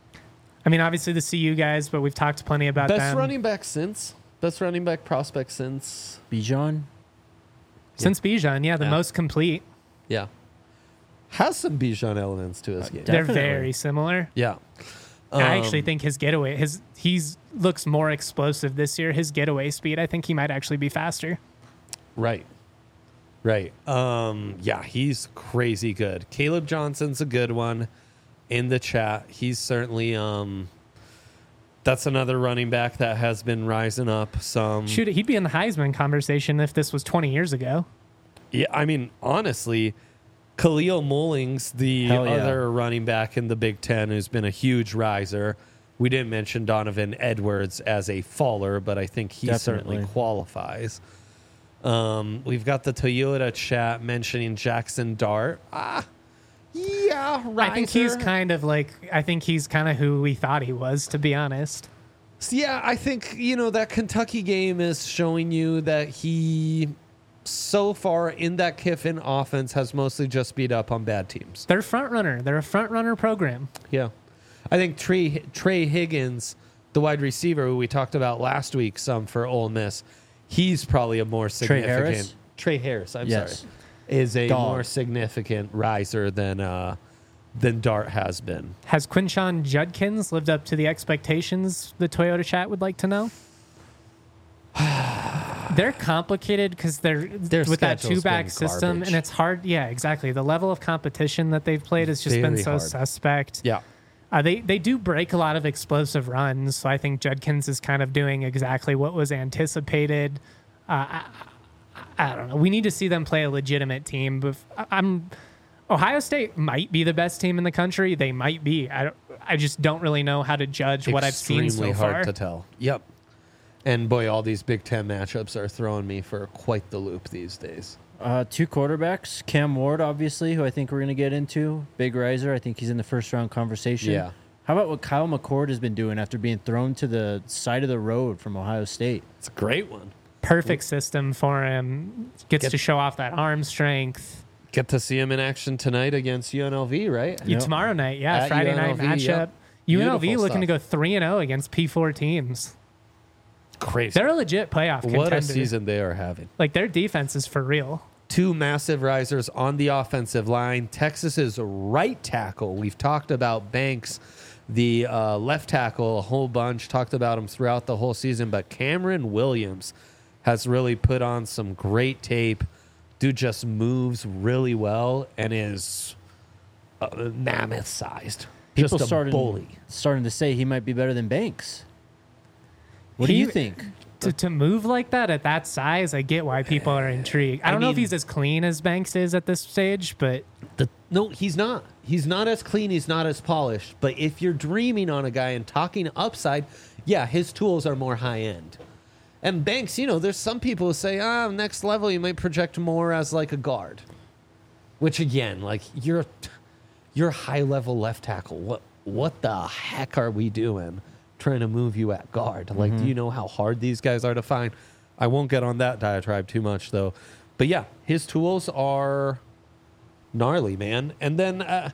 C: I mean, obviously the C U guys, but we've talked plenty about
A: Best
C: them.
A: running back since. Best running back prospect since.
B: Bijan?
C: Since Bijan, yeah, the
A: Yeah.
C: most complete.
A: Yeah. Has some Bijan elements to his game.
B: Definitely.
C: They're very similar.
A: Yeah.
C: I actually
A: Um,
C: think his getaway, his he's looks more explosive this year. His getaway speed, I think he might actually be faster.
A: Right. Right. Um, yeah, he's crazy good. Caleb Johnson's a good one in the chat. He's certainly um that's another running back that has been rising up some.
C: Shoot, he'd be in the Heisman conversation if this was twenty years ago.
A: Yeah, I mean, honestly, Khalil Mullings, the
B: Hell yeah.
A: other running back in the Big Ten, who's been a huge riser. We didn't mention Donovan Edwards as a faller, but I think he certainly
B: Definitely.
A: qualifies. Um, we've got the Toyota chat mentioning Jackson Dart. Ah, yeah, riser.
C: I think he's kind of like I think he's kind of who we thought he was, to be honest.
A: Yeah, I think, you know, that Kentucky game is showing you that he, so far in that Kiffin offense, has mostly just beat up on bad teams.
C: They're front runner. They're a front runner program.
A: Yeah. I think Trey, Trey Higgins, the wide receiver who we talked about last week some for Ole Miss, he's probably a more
B: Trey
A: significant.
B: Harris?
A: Trey Harris, I'm
B: Yes.
A: sorry. Is a
B: Dog.
A: more significant riser than uh, than Dart has been.
C: Has Quinshon Judkins lived up to the expectations the Toyota chat would like to know? they're complicated because they're
A: Their
C: with that
A: schedule's
C: two back
A: been
C: system,
A: garbage.
C: and it's hard. Yeah, exactly. The level of competition that they've played has just been
A: Very
C: so
A: hard.
C: suspect.
A: Yeah.
C: Uh, they they do break a lot of explosive runs, so I think Judkins is kind of doing exactly what was anticipated. Uh, I, I don't know. We need to see them play a legitimate team. But I'm Ohio State might be the best team in the country. They might be. I don't, I just don't really know how to judge what I've seen so
A: Extremely hard
C: far.
A: to tell. Yep. And boy, all these Big Ten matchups are throwing me for quite the loop these days.
B: Uh, two quarterbacks, Cam Ward, obviously, who I think we're going to get into. Big riser. I think he's in the first round conversation.
A: Yeah.
B: How about what Kyle McCord has been doing after being thrown to the side of the road from Ohio State?
A: It's a great one.
C: Perfect system for him. Gets
A: Get-
C: to show off that arm strength.
A: Get to see him in action tonight against U N L V, right?
C: You
B: Yep.
C: tomorrow night, yeah,
A: At
C: Friday
A: U N L
C: night
A: V,
C: matchup.
A: yep.
C: U N L V
A: Beautiful
C: looking to
A: stuff.
C: go three and zero against P four teams.
A: Crazy.
C: They're a legit playoff contender.
A: What a season they are having.
C: Like their defense is for real.
A: Two massive risers on the offensive line. Texas's right tackle. We've talked about Banks, the uh, left tackle, a whole bunch. Talked about him throughout the whole season. But Cameron Williams has really put on some great tape. Dude just moves really well and is uh, mammoth-sized.
B: People
A: Just a
B: started
A: bully.
B: starting to say he might be better than Banks. What do
C: He-
B: you think?
C: To, to move like that at that size, I get why people are intrigued. I
A: I
C: don't know if
A: mean-
C: he's as clean as Banks is at this stage, but
A: The, no, he's not. He's not as clean. He's not as polished. But if you're dreaming on a guy and talking upside, yeah, his tools are more high end. And Banks, you know, there's some people who say, ah, next level, you might project more as like a guard. Which again, like you're, you're high level left tackle. What, what the heck are we doing trying to move you at guard? Like, do you know how hard these guys are to find? I won't get on that diatribe too much though. But yeah, his tools are gnarly, man. And then uh,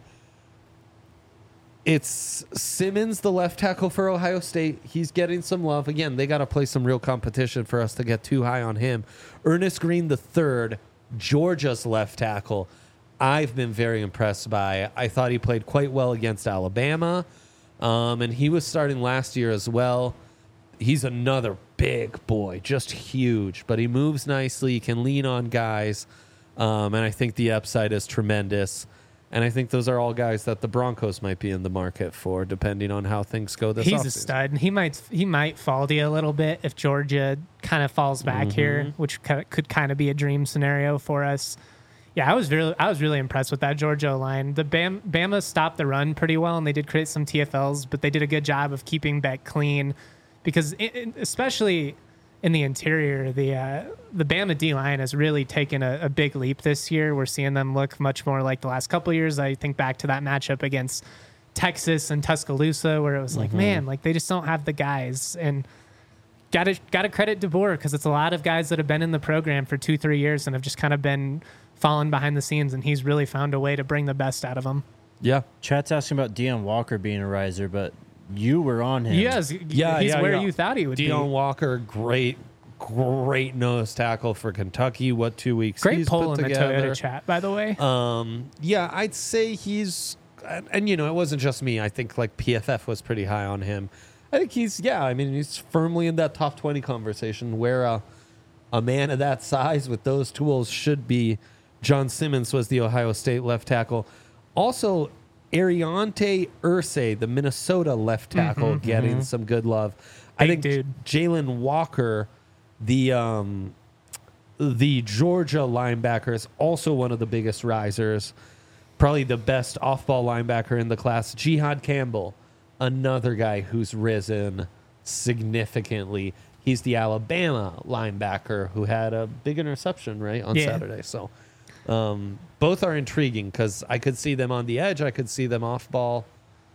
A: it's Simmons, the left tackle for Ohio State. He's getting some love. Again, they got to play some real competition for us to get too high on him. Ernest Green, the third, Georgia's left tackle. I've been very impressed by. I thought he played quite well against Alabama, um, and he was starting last year as well. He's another big boy, just huge, but he moves nicely. He can lean on guys, um, and I think the upside is tremendous. And I think those are all guys that the Broncos might be in the market for, depending on how things go this
C: he's
A: offseason.
C: a stud. He might he might fall to you a little bit if Georgia kind of falls back
A: Mm-hmm.
C: here, which could, could kind of be a dream scenario for us. Yeah, I was really I was really impressed with that Georgia line. The Bam, Bama stopped the run pretty well, and they did create some T F Ls, but they did a good job of keeping Beck clean, because it, it- especially in the interior, the uh, the Bama D line has really taken a, a big leap this year. We're seeing them look much more like the last couple of years. I think back to that matchup against Texas and Tuscaloosa, where it was like, man, like they just don't have the guys. And got to got to credit DeBoer, because it's a lot of guys that have been in the program for two, three years and have just kind of been falling behind the scenes, and he's really found a way to bring the best out of them.
A: Yeah.
B: Chat's asking about Deion Walker being a riser, but you were on him.
C: Yes,
A: Yeah,
C: he's
A: yeah,
C: where
A: yeah.
C: you thought he would
A: Deion
C: be.
A: Walker, great, great nose tackle for Kentucky. What two weeks
C: Great
A: he's
C: poll
A: put
C: in the
A: together.
C: Toyota chat, by the way.
A: Um, yeah, I'd say he's, and, and you know, it wasn't just me. I think like P F F was pretty high on him. I think he's, yeah, I mean, he's firmly in that top twenty conversation where uh, a man of that size with those tools should be. John Simmons was the Ohio State left tackle. Also, Ariante Irsay, the Minnesota left tackle, getting some good love. I
C: Big
A: think
C: dude.
A: Jalen Walker, the um, the Georgia linebacker, is also one of the biggest risers. Probably the best off-ball linebacker in the class. Jihad Campbell, another guy who's risen significantly. He's the Alabama linebacker who had a big interception, right, on
C: Yeah.
A: Saturday. So um, both are intriguing because I could see them on the edge. I could see them off-ball,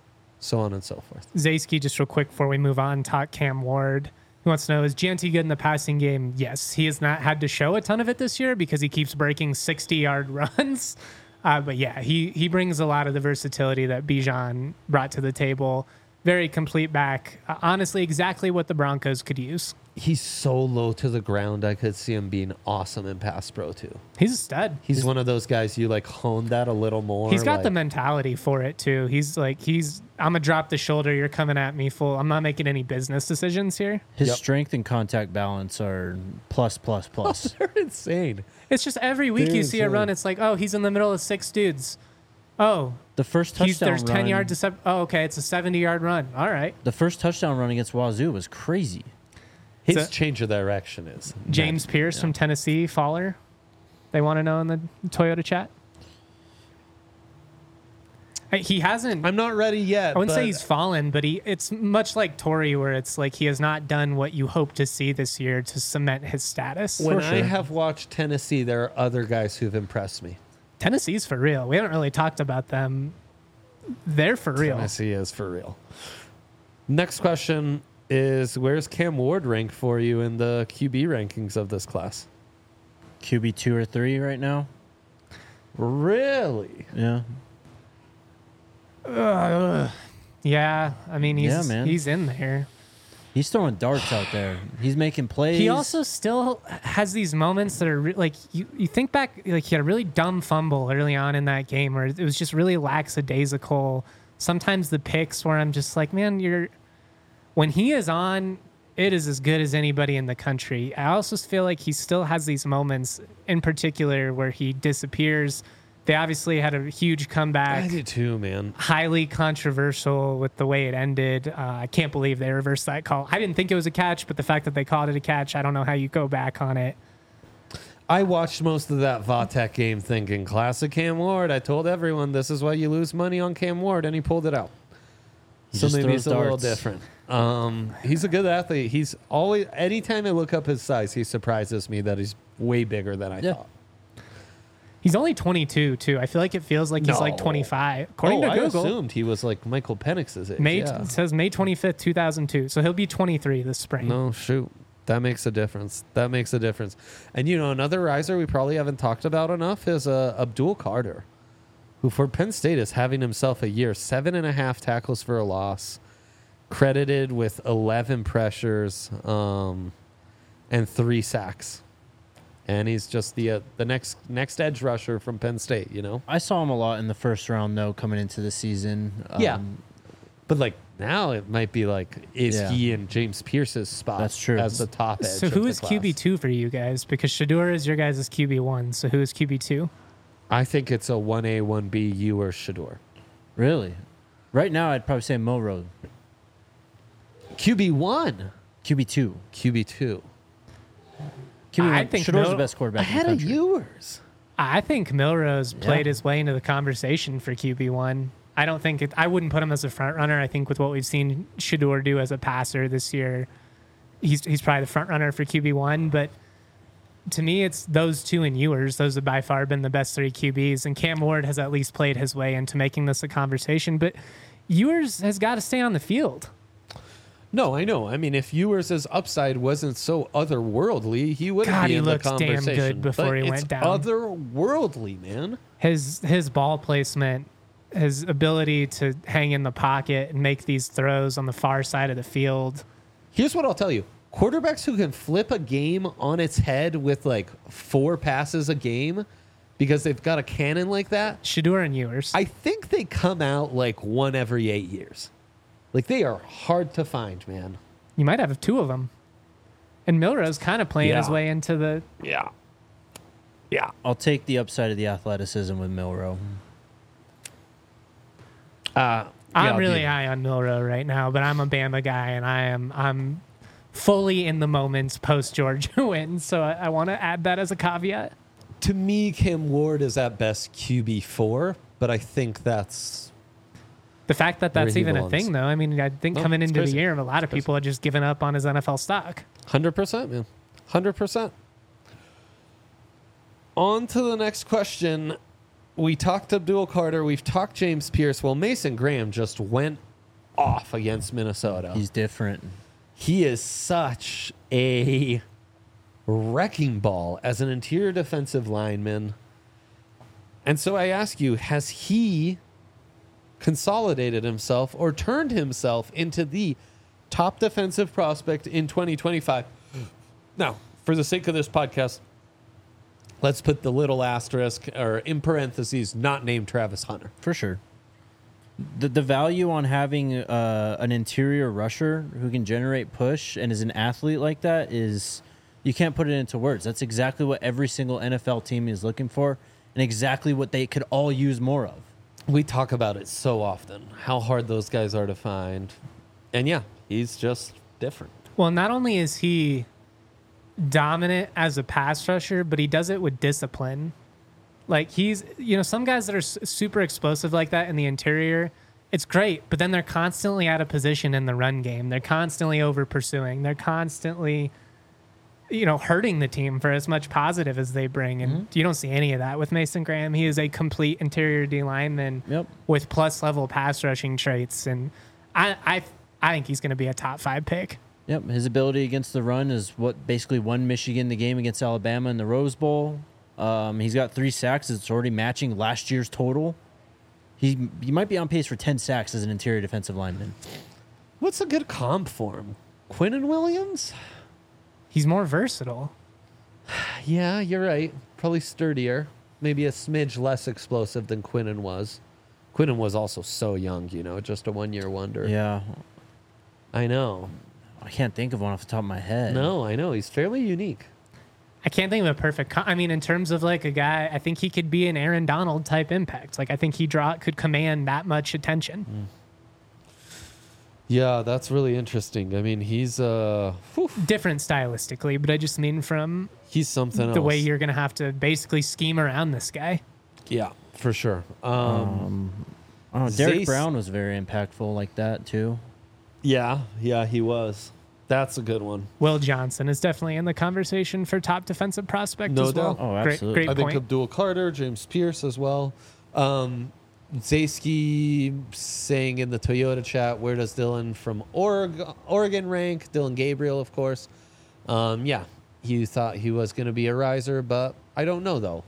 A: so on and so forth.
C: Zaysky, just real quick before we move on, talk Cam Ward. He wants to know, is G N T good in the passing game? Yes. He has not had to show a ton of it this year because he keeps breaking sixty-yard runs. Uh, but yeah, he, he brings a lot of the versatility that Bijan brought to the table. Very complete back. Uh, honestly, exactly what the Broncos could use.
A: he's so low to the ground. I could see him being awesome in pass pro too.
C: He's a stud.
A: He's one of those guys you like hone that a little more.
C: He's got
A: like,
C: the mentality for it too. He's like, he's, I'm gonna drop the shoulder. You're coming at me full. I'm not making any business decisions here.
B: His
A: Yep.
B: strength and contact balance are plus, plus, plus.
A: They're insane.
C: It's just every week
A: They're
C: you see a
A: insane.
C: run. It's like, oh, he's in the middle of six dudes. Oh,
B: The first touchdown
C: he's, there's
B: run,
C: ten yards to seven. Oh, okay, it's a seventy yard run. All right.
B: The first touchdown run against Wazoo was crazy.
A: His
C: So-
A: change of direction is
C: James
A: nuts.
C: Pierce
A: Yeah.
C: from Tennessee, Faller. They want to know in the Toyota chat. Uh, He hasn't.
A: I'm not ready yet.
C: I wouldn't say
A: but
C: he's fallen, but he. It's much like Torrey, where it's like he has not done what you hope to see this year to cement his status.
A: when
B: for
A: I
B: sure.
A: have watched Tennessee, there are other guys who've impressed me.
C: Tennessee's for real. We haven't really talked about them. They're for real.
A: Tennessee is for real. Next question is, where's Cam Ward ranked for you in the Q B rankings of this class?
B: Q B two or three right now.
A: Really?
B: Yeah.
C: Yeah, I mean he's
B: Yeah, man.
C: he's in there.
B: He's throwing darts out there. He's making plays.
C: He also still has these moments that are re- like you, you think back, like he had a really dumb fumble early on in that game where it was just really lackadaisical. Sometimes the picks where I'm just like, man, you're when he is on, it is as good as anybody in the country. I also feel like he still has these moments in particular where he disappears. They obviously had a huge comeback.
A: I do too, man.
C: Highly controversial with the way it ended. Uh, I can't believe they reversed that call. I didn't think it was a catch, but the fact that they called it a catch, I don't know how you go back on it.
A: I watched most of that Vatek game thinking, classic Cam Ward. I told everyone this is why you lose money on Cam Ward, and he pulled it out.
B: He
A: So
B: just
A: maybe
B: throws
A: it's a little
B: darts.
A: different. Um, he's a good athlete. He's always, anytime I look up his size, he surprises me that he's way bigger than I
B: Yeah.
A: thought.
C: He's only twenty-two, too. I feel like it feels like he's like
A: No.
C: twenty-five. According
A: oh,
C: to
A: I
C: Google,
A: assumed he was like Michael Penix's age.
C: May,
A: yeah.
C: it says May twenty-fifth, two thousand two. So he'll be twenty-three this spring.
A: No, shoot. That makes a difference. That makes a difference. And, you know, another riser we probably haven't talked about enough is uh, Abdul Carter, who for Penn State is having himself a year. Seven and a half tackles for a loss, credited with eleven pressures um, and three sacks. And he's just the uh, the next next edge rusher from Penn State, you know?
B: I saw him a lot in the first round, though, coming into the season.
A: Yeah.
B: Um,
A: But, like, now it might be like, is
B: Yeah.
A: he in James Pierce's spot
B: That's true.
A: as the top edge?
C: So
A: of
C: who
A: the
C: is Q B
A: class?
C: two for you guys? Because Shador is your guys' Q B one. So who is Q B two?
A: I think it's a one A, one B, you or Shador.
B: Really? Right now, I'd probably say Milrow.
A: Q B one.
B: Q B two.
A: Q B two.
B: Q B one.
C: I think
B: Shador's
C: Mil-
B: the best quarterback
A: Ahead
B: in
A: of
B: the country.
A: yours.
C: I think Milrose played
B: Yeah.
C: his way into the conversation for Q B one. I don't think it, I wouldn't put him as a front runner. I think with what we've seen Shador do as a passer this year, he's he's probably the front runner for Q B one. But to me, it's those two and Ewers. Those have by far been the best three Q Bs. And Cam Ward has at least played his way into making this a conversation. But Ewers has got to stay on the field.
A: No, I know. I mean, if Ewers' upside wasn't so otherworldly, he wouldn't
C: God,
A: be
C: he
A: in the
C: looks damn
A: conversation.
C: good before
A: But
C: he
A: it's
C: went down.
A: otherworldly, man.
C: His his ball placement, his ability to hang in the pocket and make these throws on the far side of the field.
A: Here's what I'll tell you. Quarterbacks who can flip a game on its head with like four passes a game because they've got a cannon like that,
C: Shador and Ewers.
A: I think they come out like one every eight years. Like, they are hard to find, man.
C: You might have two of them. And Milrose kind of playing his
A: Yeah.
C: way into the.
A: Yeah. Yeah.
B: I'll take the upside of the athleticism with Milrow.
A: Uh,
C: I'm
A: yeah,
C: really
A: yeah.
C: high on Milrow right now, but I'm a Bama guy, and I am I'm fully in the moments post Georgia win. So I, I want to add that as a caveat.
A: To me, Cam Ward is at best Q B four, but I think that's
C: The fact that
A: Where
C: that's
A: he
C: even
A: belongs.
C: a thing, though, I mean, I think
A: No,
C: coming
A: it's
C: into
A: crazy.
C: the year, a lot of people had just given up on his N F L stock.
A: one hundred percent, man. one hundred percent. On to the next question. We talked Abdul Carter. We've talked James Pierce. Well, Mason Graham just went off against Minnesota.
B: He's different.
A: He is such a wrecking ball as an interior defensive lineman. And so I ask you, has he consolidated himself or turned himself into the top defensive prospect in twenty twenty-five Now, for the sake of this podcast, let's put the little asterisk or in parentheses, not named Travis Hunter.
B: For sure. The the value on having uh, an interior rusher who can generate push and is an athlete like that is, you can't put it into words. That's exactly what every single N F L team is looking for and exactly what they could all use more of.
A: We talk about it so often, how hard those guys are to find. And yeah, he's just different.
C: Well, not only is he dominant as a pass rusher, but he does it with discipline. Like he's, you know, some guys that are s- super explosive like that in the interior, it's great, but then they're constantly out of position in the run game. They're constantly over pursuing. They're constantly, you know, hurting the team for as much positive as they bring. And mm-hmm. you don't see any of that with Mason Graham. He is a complete interior D lineman
B: yep.
C: with plus level pass rushing traits. And I, I, I think he's going to be a top five pick.
B: Yep. His ability against the run is what basically won Michigan the game against Alabama in the Rose Bowl. Um, he's got three sacks. It's already matching last year's total. He he might be on pace for ten sacks as an interior defensive lineman.
A: What's a good comp for him? Quinnen Williams?
C: He's more versatile.
A: Yeah, you're right. Probably sturdier. Maybe a smidge less explosive than Quinnen was. Quinnen was also so young, you know, just a one-year wonder.
B: Yeah.
A: I know.
B: I can't think of one off the top of my head.
A: No, I know. He's fairly unique.
C: I can't think of a perfect. Com- I mean, in terms of like a guy, I think he could be an Aaron Donald type impact. Like I think he draw could command that much attention.
A: Mm. Yeah, that's really interesting. I mean, he's uh, whew.
C: different stylistically, but I just mean from
A: he's something
C: the
A: else.
C: way you're going to have to basically scheme around this guy.
A: Yeah, for sure. Um,
B: Um, oh, Derek
A: Zace-
B: Brown was very impactful like that too.
A: yeah, yeah, he was. That's a good one.
C: Will Johnson is definitely in the conversation for top defensive prospect
A: No
C: as well.
A: doubt.
B: Oh,
C: Great,
B: absolutely.
C: great
A: I think
C: point.
A: Abdul Carter, James Pierce as well. Um, Zaysky saying in the Toyota chat, where does Dylan from Oreg- Oregon rank? Dylan Gabriel, of course. Um, yeah, he thought he was going to be a riser, but I don't know, though.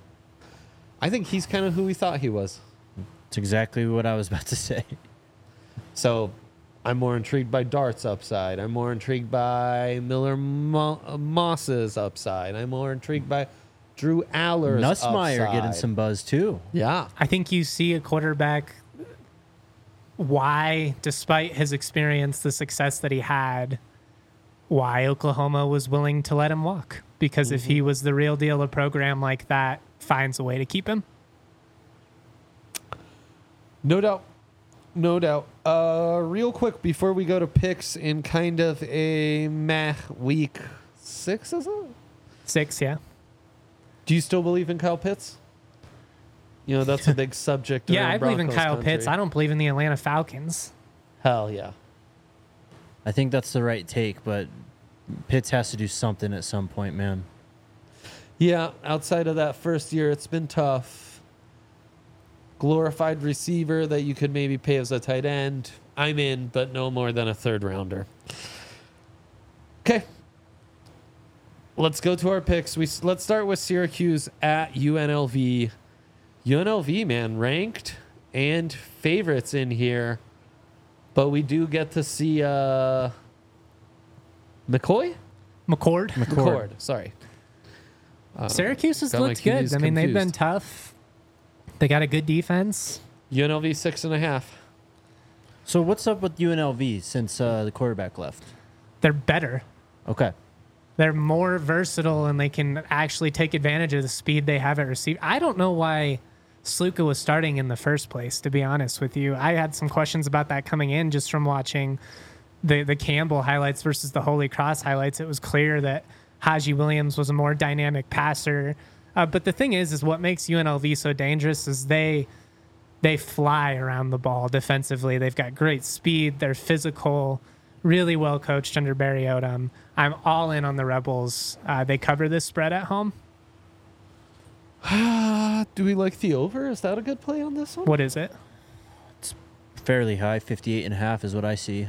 A: I think he's kind of who we thought he was.
B: It's exactly what I was about to say.
A: So I'm more intrigued by Dart's upside. I'm more intrigued by Miller Mo- Moss's upside. I'm more intrigued by Drew Aller's
B: Nussmeier
A: upside.
B: getting some buzz too.
A: Yeah.
C: I think you see a quarterback why, despite his experience, the success that he had, why Oklahoma was willing to let him walk. Because mm-hmm. if he was the real deal, a program like that finds a way to keep him.
A: No doubt. No doubt. Uh, real quick, before we go to picks in kind of a meh week six, is it?
C: Six, yeah.
A: Do you still believe in Kyle Pitts? You know, that's a big subject.
C: Yeah,
A: around
C: I believe in
A: Broncos
C: Kyle
A: country.
C: Pitts. I don't believe in the Atlanta Falcons.
A: Hell yeah.
B: I think that's the right take, but Pitts has to do something at some point, man.
A: Yeah, outside of that first year, it's been tough. Glorified receiver that you could maybe pay as a tight end. I'm in, but no more than a third rounder. Okay. Let's go to our picks. We let's start with Syracuse at U N L V. U N L V, man, ranked and favorites in here, but we do get to see uh, McCoy,
C: McCord.
B: McCord.
A: McCord. Sorry, uh,
C: Syracuse has
A: got my
C: looked good.
A: Qs
C: I mean, they've been
A: confused.
C: tough. They got a good defense.
A: U N L V six and a half.
B: So what's up with U N L V since uh, the quarterback left?
C: They're better.
B: Okay.
C: They're more versatile and they can actually take advantage of the speed they have at receiver. I don't know why Sluka was starting in the first place, to be honest with you. I had some questions about that coming in just from watching the, the Campbell highlights versus the Holy Cross highlights. It was clear that Haji Williams was a more dynamic passer. Uh, but the thing is, is what makes U N L V so dangerous is they they fly around the ball defensively. They've got great speed. They're physical, really well coached under Barry Odom. I'm all in on the Rebels. Uh, they cover this spread at home.
A: Do we like the over? Is that a good play on this one?
C: What is it?
B: Fairly high, fifty-eight and a half is what I see.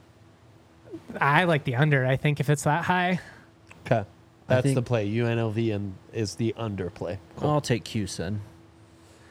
C: I like the under. I think if it's that high,
A: Okay. That's
B: think-
A: the play. U N L V and is the under play. Cool.
B: I'll take Cuse then.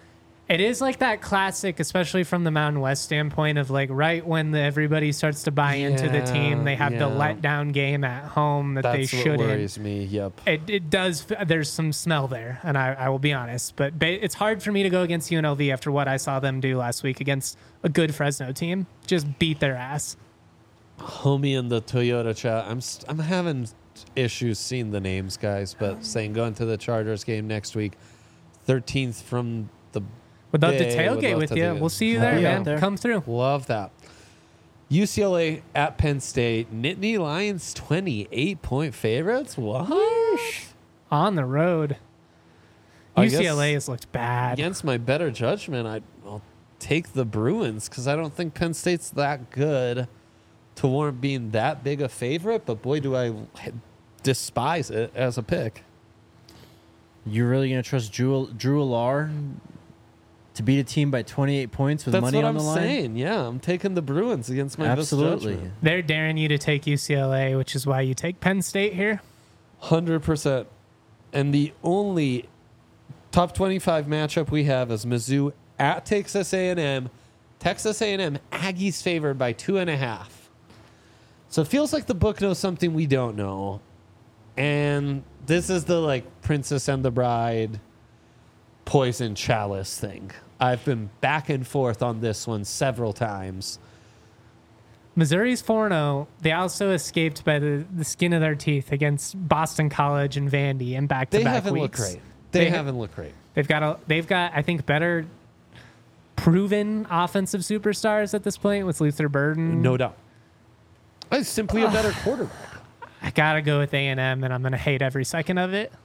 C: It is like that classic, especially from the Mountain West standpoint of like right when the, everybody starts to buy into the team, they have
A: Yeah,
C: the
A: yeah.
C: letdown game at home that
A: That's
C: they
A: what
C: shouldn't.
A: worries me. Yep.
C: It, it does. There's some smell there, and I, I will be honest. But ba- it's hard for me to go against U N L V after what I saw them do last week against a good Fresno team. Just beat their ass.
A: Homie in the Toyota chat. I'm st- I'm having issues seeing the names, guys, but saying going to the Chargers game next week, thirteenth from the.
C: Would love to
A: Bay, would
C: tailgate
A: love
C: with
A: to
C: you.
A: do it.
C: We'll see you
B: I'll
C: there,
B: be out
C: man.
B: there.
C: Come through.
A: Love that. U C L A at Penn State. Nittany Lions twenty-eight point favorites. What?
C: On the road.
A: I
C: U C L A
A: guess
C: has looked bad.
A: Against my better judgment, I, I'll take the Bruins because I don't think Penn State's that good to warrant being that big a favorite. But boy, do I despise it as a pick.
B: You're really gonna trust Drew Drew Alar to beat a team by twenty-eight points with
A: That's
B: money
A: what
B: on
A: I'm
B: the line?
A: saying. Yeah, I'm taking the Bruins against my best
B: Absolutely.
A: judgment.
C: They're daring you to take U C L A, which is why you take Penn State here.
A: one hundred percent. And the only top twenty-five matchup we have is Mizzou at Texas A and M. Texas A and M, Aggies favored by two and a half. So it feels like the book knows something we don't know. And this is the like Princess and the Bride poison chalice thing. I've been back and forth on this one several times.
C: Missouri's four and oh. They also escaped by the, the skin of their teeth against Boston College and Vandy in
A: They
C: back-to-back
A: haven't
C: weeks.
A: looked great. They,
C: They-
A: haven't looked great.
C: They've got a, they've got I think better proven offensive superstars at this point with Luther Burden.
A: No doubt. It's simply a better quarterback.
C: I gotta go with A and M, and I'm gonna hate every second of it.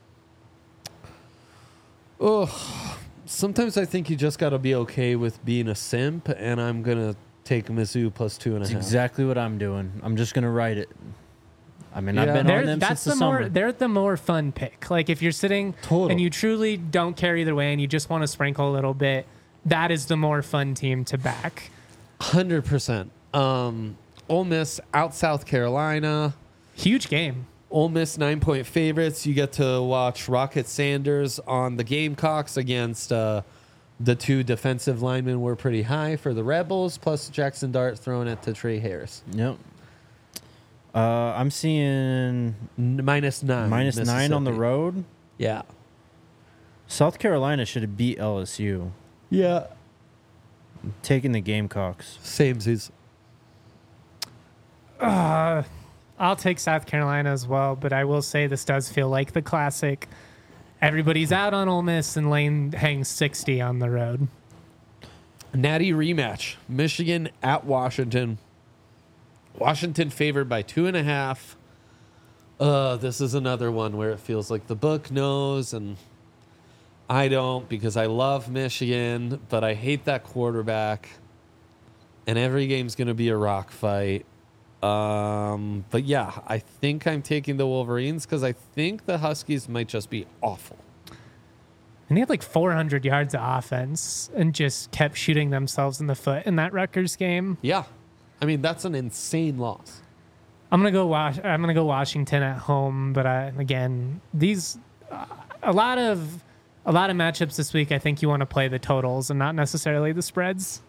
A: Oh, sometimes I think you just got to be okay with being a simp, and I'm gonna take Mizzou plus two and a
B: That's
A: half.
B: exactly what I'm doing. I'm just gonna write it. I mean, I've
A: Yeah.
B: been
C: They're,
B: on them
C: that's
B: since
C: the
B: the
C: more
B: summer.
C: they're the more fun pick. Like if you're sitting
A: Total.
C: and you truly don't care either way, and you just want to sprinkle a little bit, that is the more fun team to back.
A: Hundred percent. Um, Ole Miss out South Carolina.
C: Huge game.
A: Ole Miss nine point favorites. You get to watch Rocket Sanders on the Gamecocks against uh, the two defensive linemen were pretty high for the Rebels, plus Jackson Dart throwing it to Trey Harris.
B: Yep. Uh, I'm seeing
A: N- minus nine.
B: minus nine on the
A: Mississippi.
B: road.
A: Yeah.
B: South Carolina should have beat L S U.
A: Yeah.
B: Taking the Gamecocks.
A: Samesies.
C: Uh, I'll take South Carolina as well, but I will say this does feel like the classic. Everybody's out on Ole Miss, and Lane hangs sixty on the road.
A: Natty rematch. Michigan at Washington. Washington favored by two and a half. Uh, this is another one where it feels like the book knows, and I don't because I love Michigan, but I hate that quarterback. And every game's going to be a rock fight. Um, but yeah, I think I'm taking the Wolverines because I think the Huskies might just be awful.
C: And they had like four hundred yards of offense and just kept shooting themselves in the foot in that Rutgers game.
A: Yeah. I mean, that's an insane loss.
C: I'm gonna go. Wash, I'm gonna go Washington at home, but I, again, these uh, a lot of a lot of matchups this week. I think you want to play the totals and not necessarily the spreads.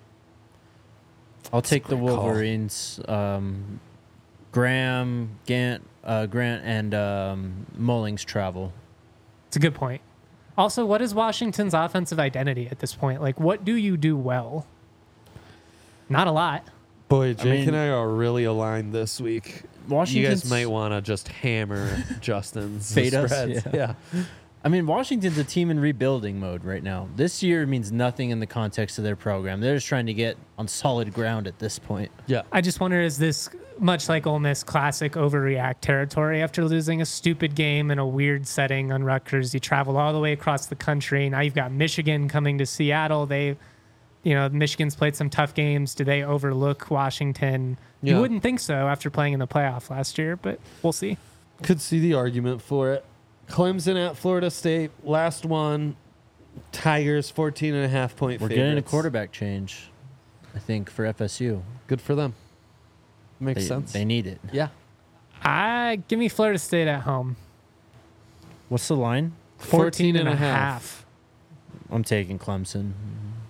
B: I'll take the
A: great call.
B: Wolverines. Um, Graham, Gant, uh, Grant, and um, Mullings travel.
C: It's a good point. Also, what is Washington's offensive identity at this point? Like, what do you do well? Not a lot.
A: Boy, Jake
B: mean-
A: and I are really aligned this week. You
B: Washington's,
A: guys might want to just hammer Justin's
B: Fade us,
A: spreads.
B: yeah.
A: Yeah.
B: I mean, Washington's a team in rebuilding mode right now. This year means nothing in the context of their program. They're just trying to get on solid ground at this point.
A: Yeah.
C: I just wonder, is this much like Ole Miss classic overreact territory after losing a stupid game in a weird setting on Rutgers? You travel all the way across the country. Now you've got Michigan coming to Seattle. They, you know, Michigan's played some tough games. Do they overlook Washington?
A: Yeah.
C: You wouldn't think so after playing in the playoff last year, but we'll see.
A: Could see the argument for it. Clemson at Florida State. Last one. Tigers fourteen and a half point
B: We're
A: favorites.
B: getting a quarterback change, I think, for F S U.
A: Good for them. Makes
B: They,
A: sense.
B: they need it.
A: yeah.
C: I give me Florida State at home.
B: What's the line?
A: fourteen and a half.
B: I'm taking Clemson.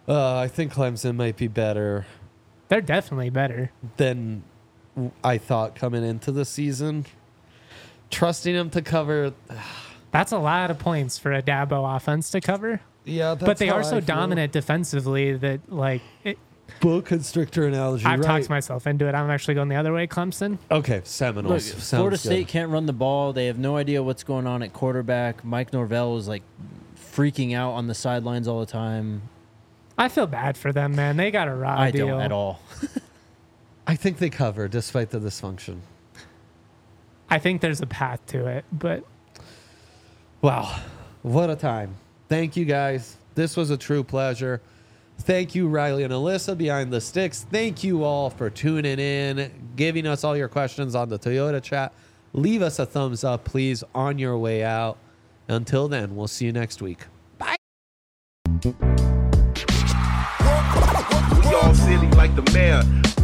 A: Uh, I think Clemson might be better
C: They're definitely better.
A: than I thought coming into the season. Trusting them to cover,
C: That's a lot of points for a Dabo offense to cover.
A: yeah, that's
C: But they
A: how
C: are
A: I
C: so
A: feel.
C: dominant defensively that, like, it,
A: Book constrictor analogy.
C: I've
A: right.
C: talked myself into it. I'm actually going the other way, Clemson.
A: Okay,
B: Look,
A: Seminoles. Sounds
B: Florida
A: good.
B: State can't run the ball. They have no idea what's going on at quarterback. Mike Norvell is like freaking out on the sidelines all the time.
C: I feel bad for them, man. They got a raw
B: I
C: deal.
B: don't at all.
A: I think they cover despite the dysfunction.
C: I think there's a path to it, but
A: Wow, what a time. Thank you guys. This was a true pleasure. Thank you, Riley and Alyssa behind the sticks. Thank you all for tuning in, giving us all your questions on the Toyota chat. Leave us a thumbs up, please, on your way out. Until then, we'll see you next week.
D: We all silly like the mayor.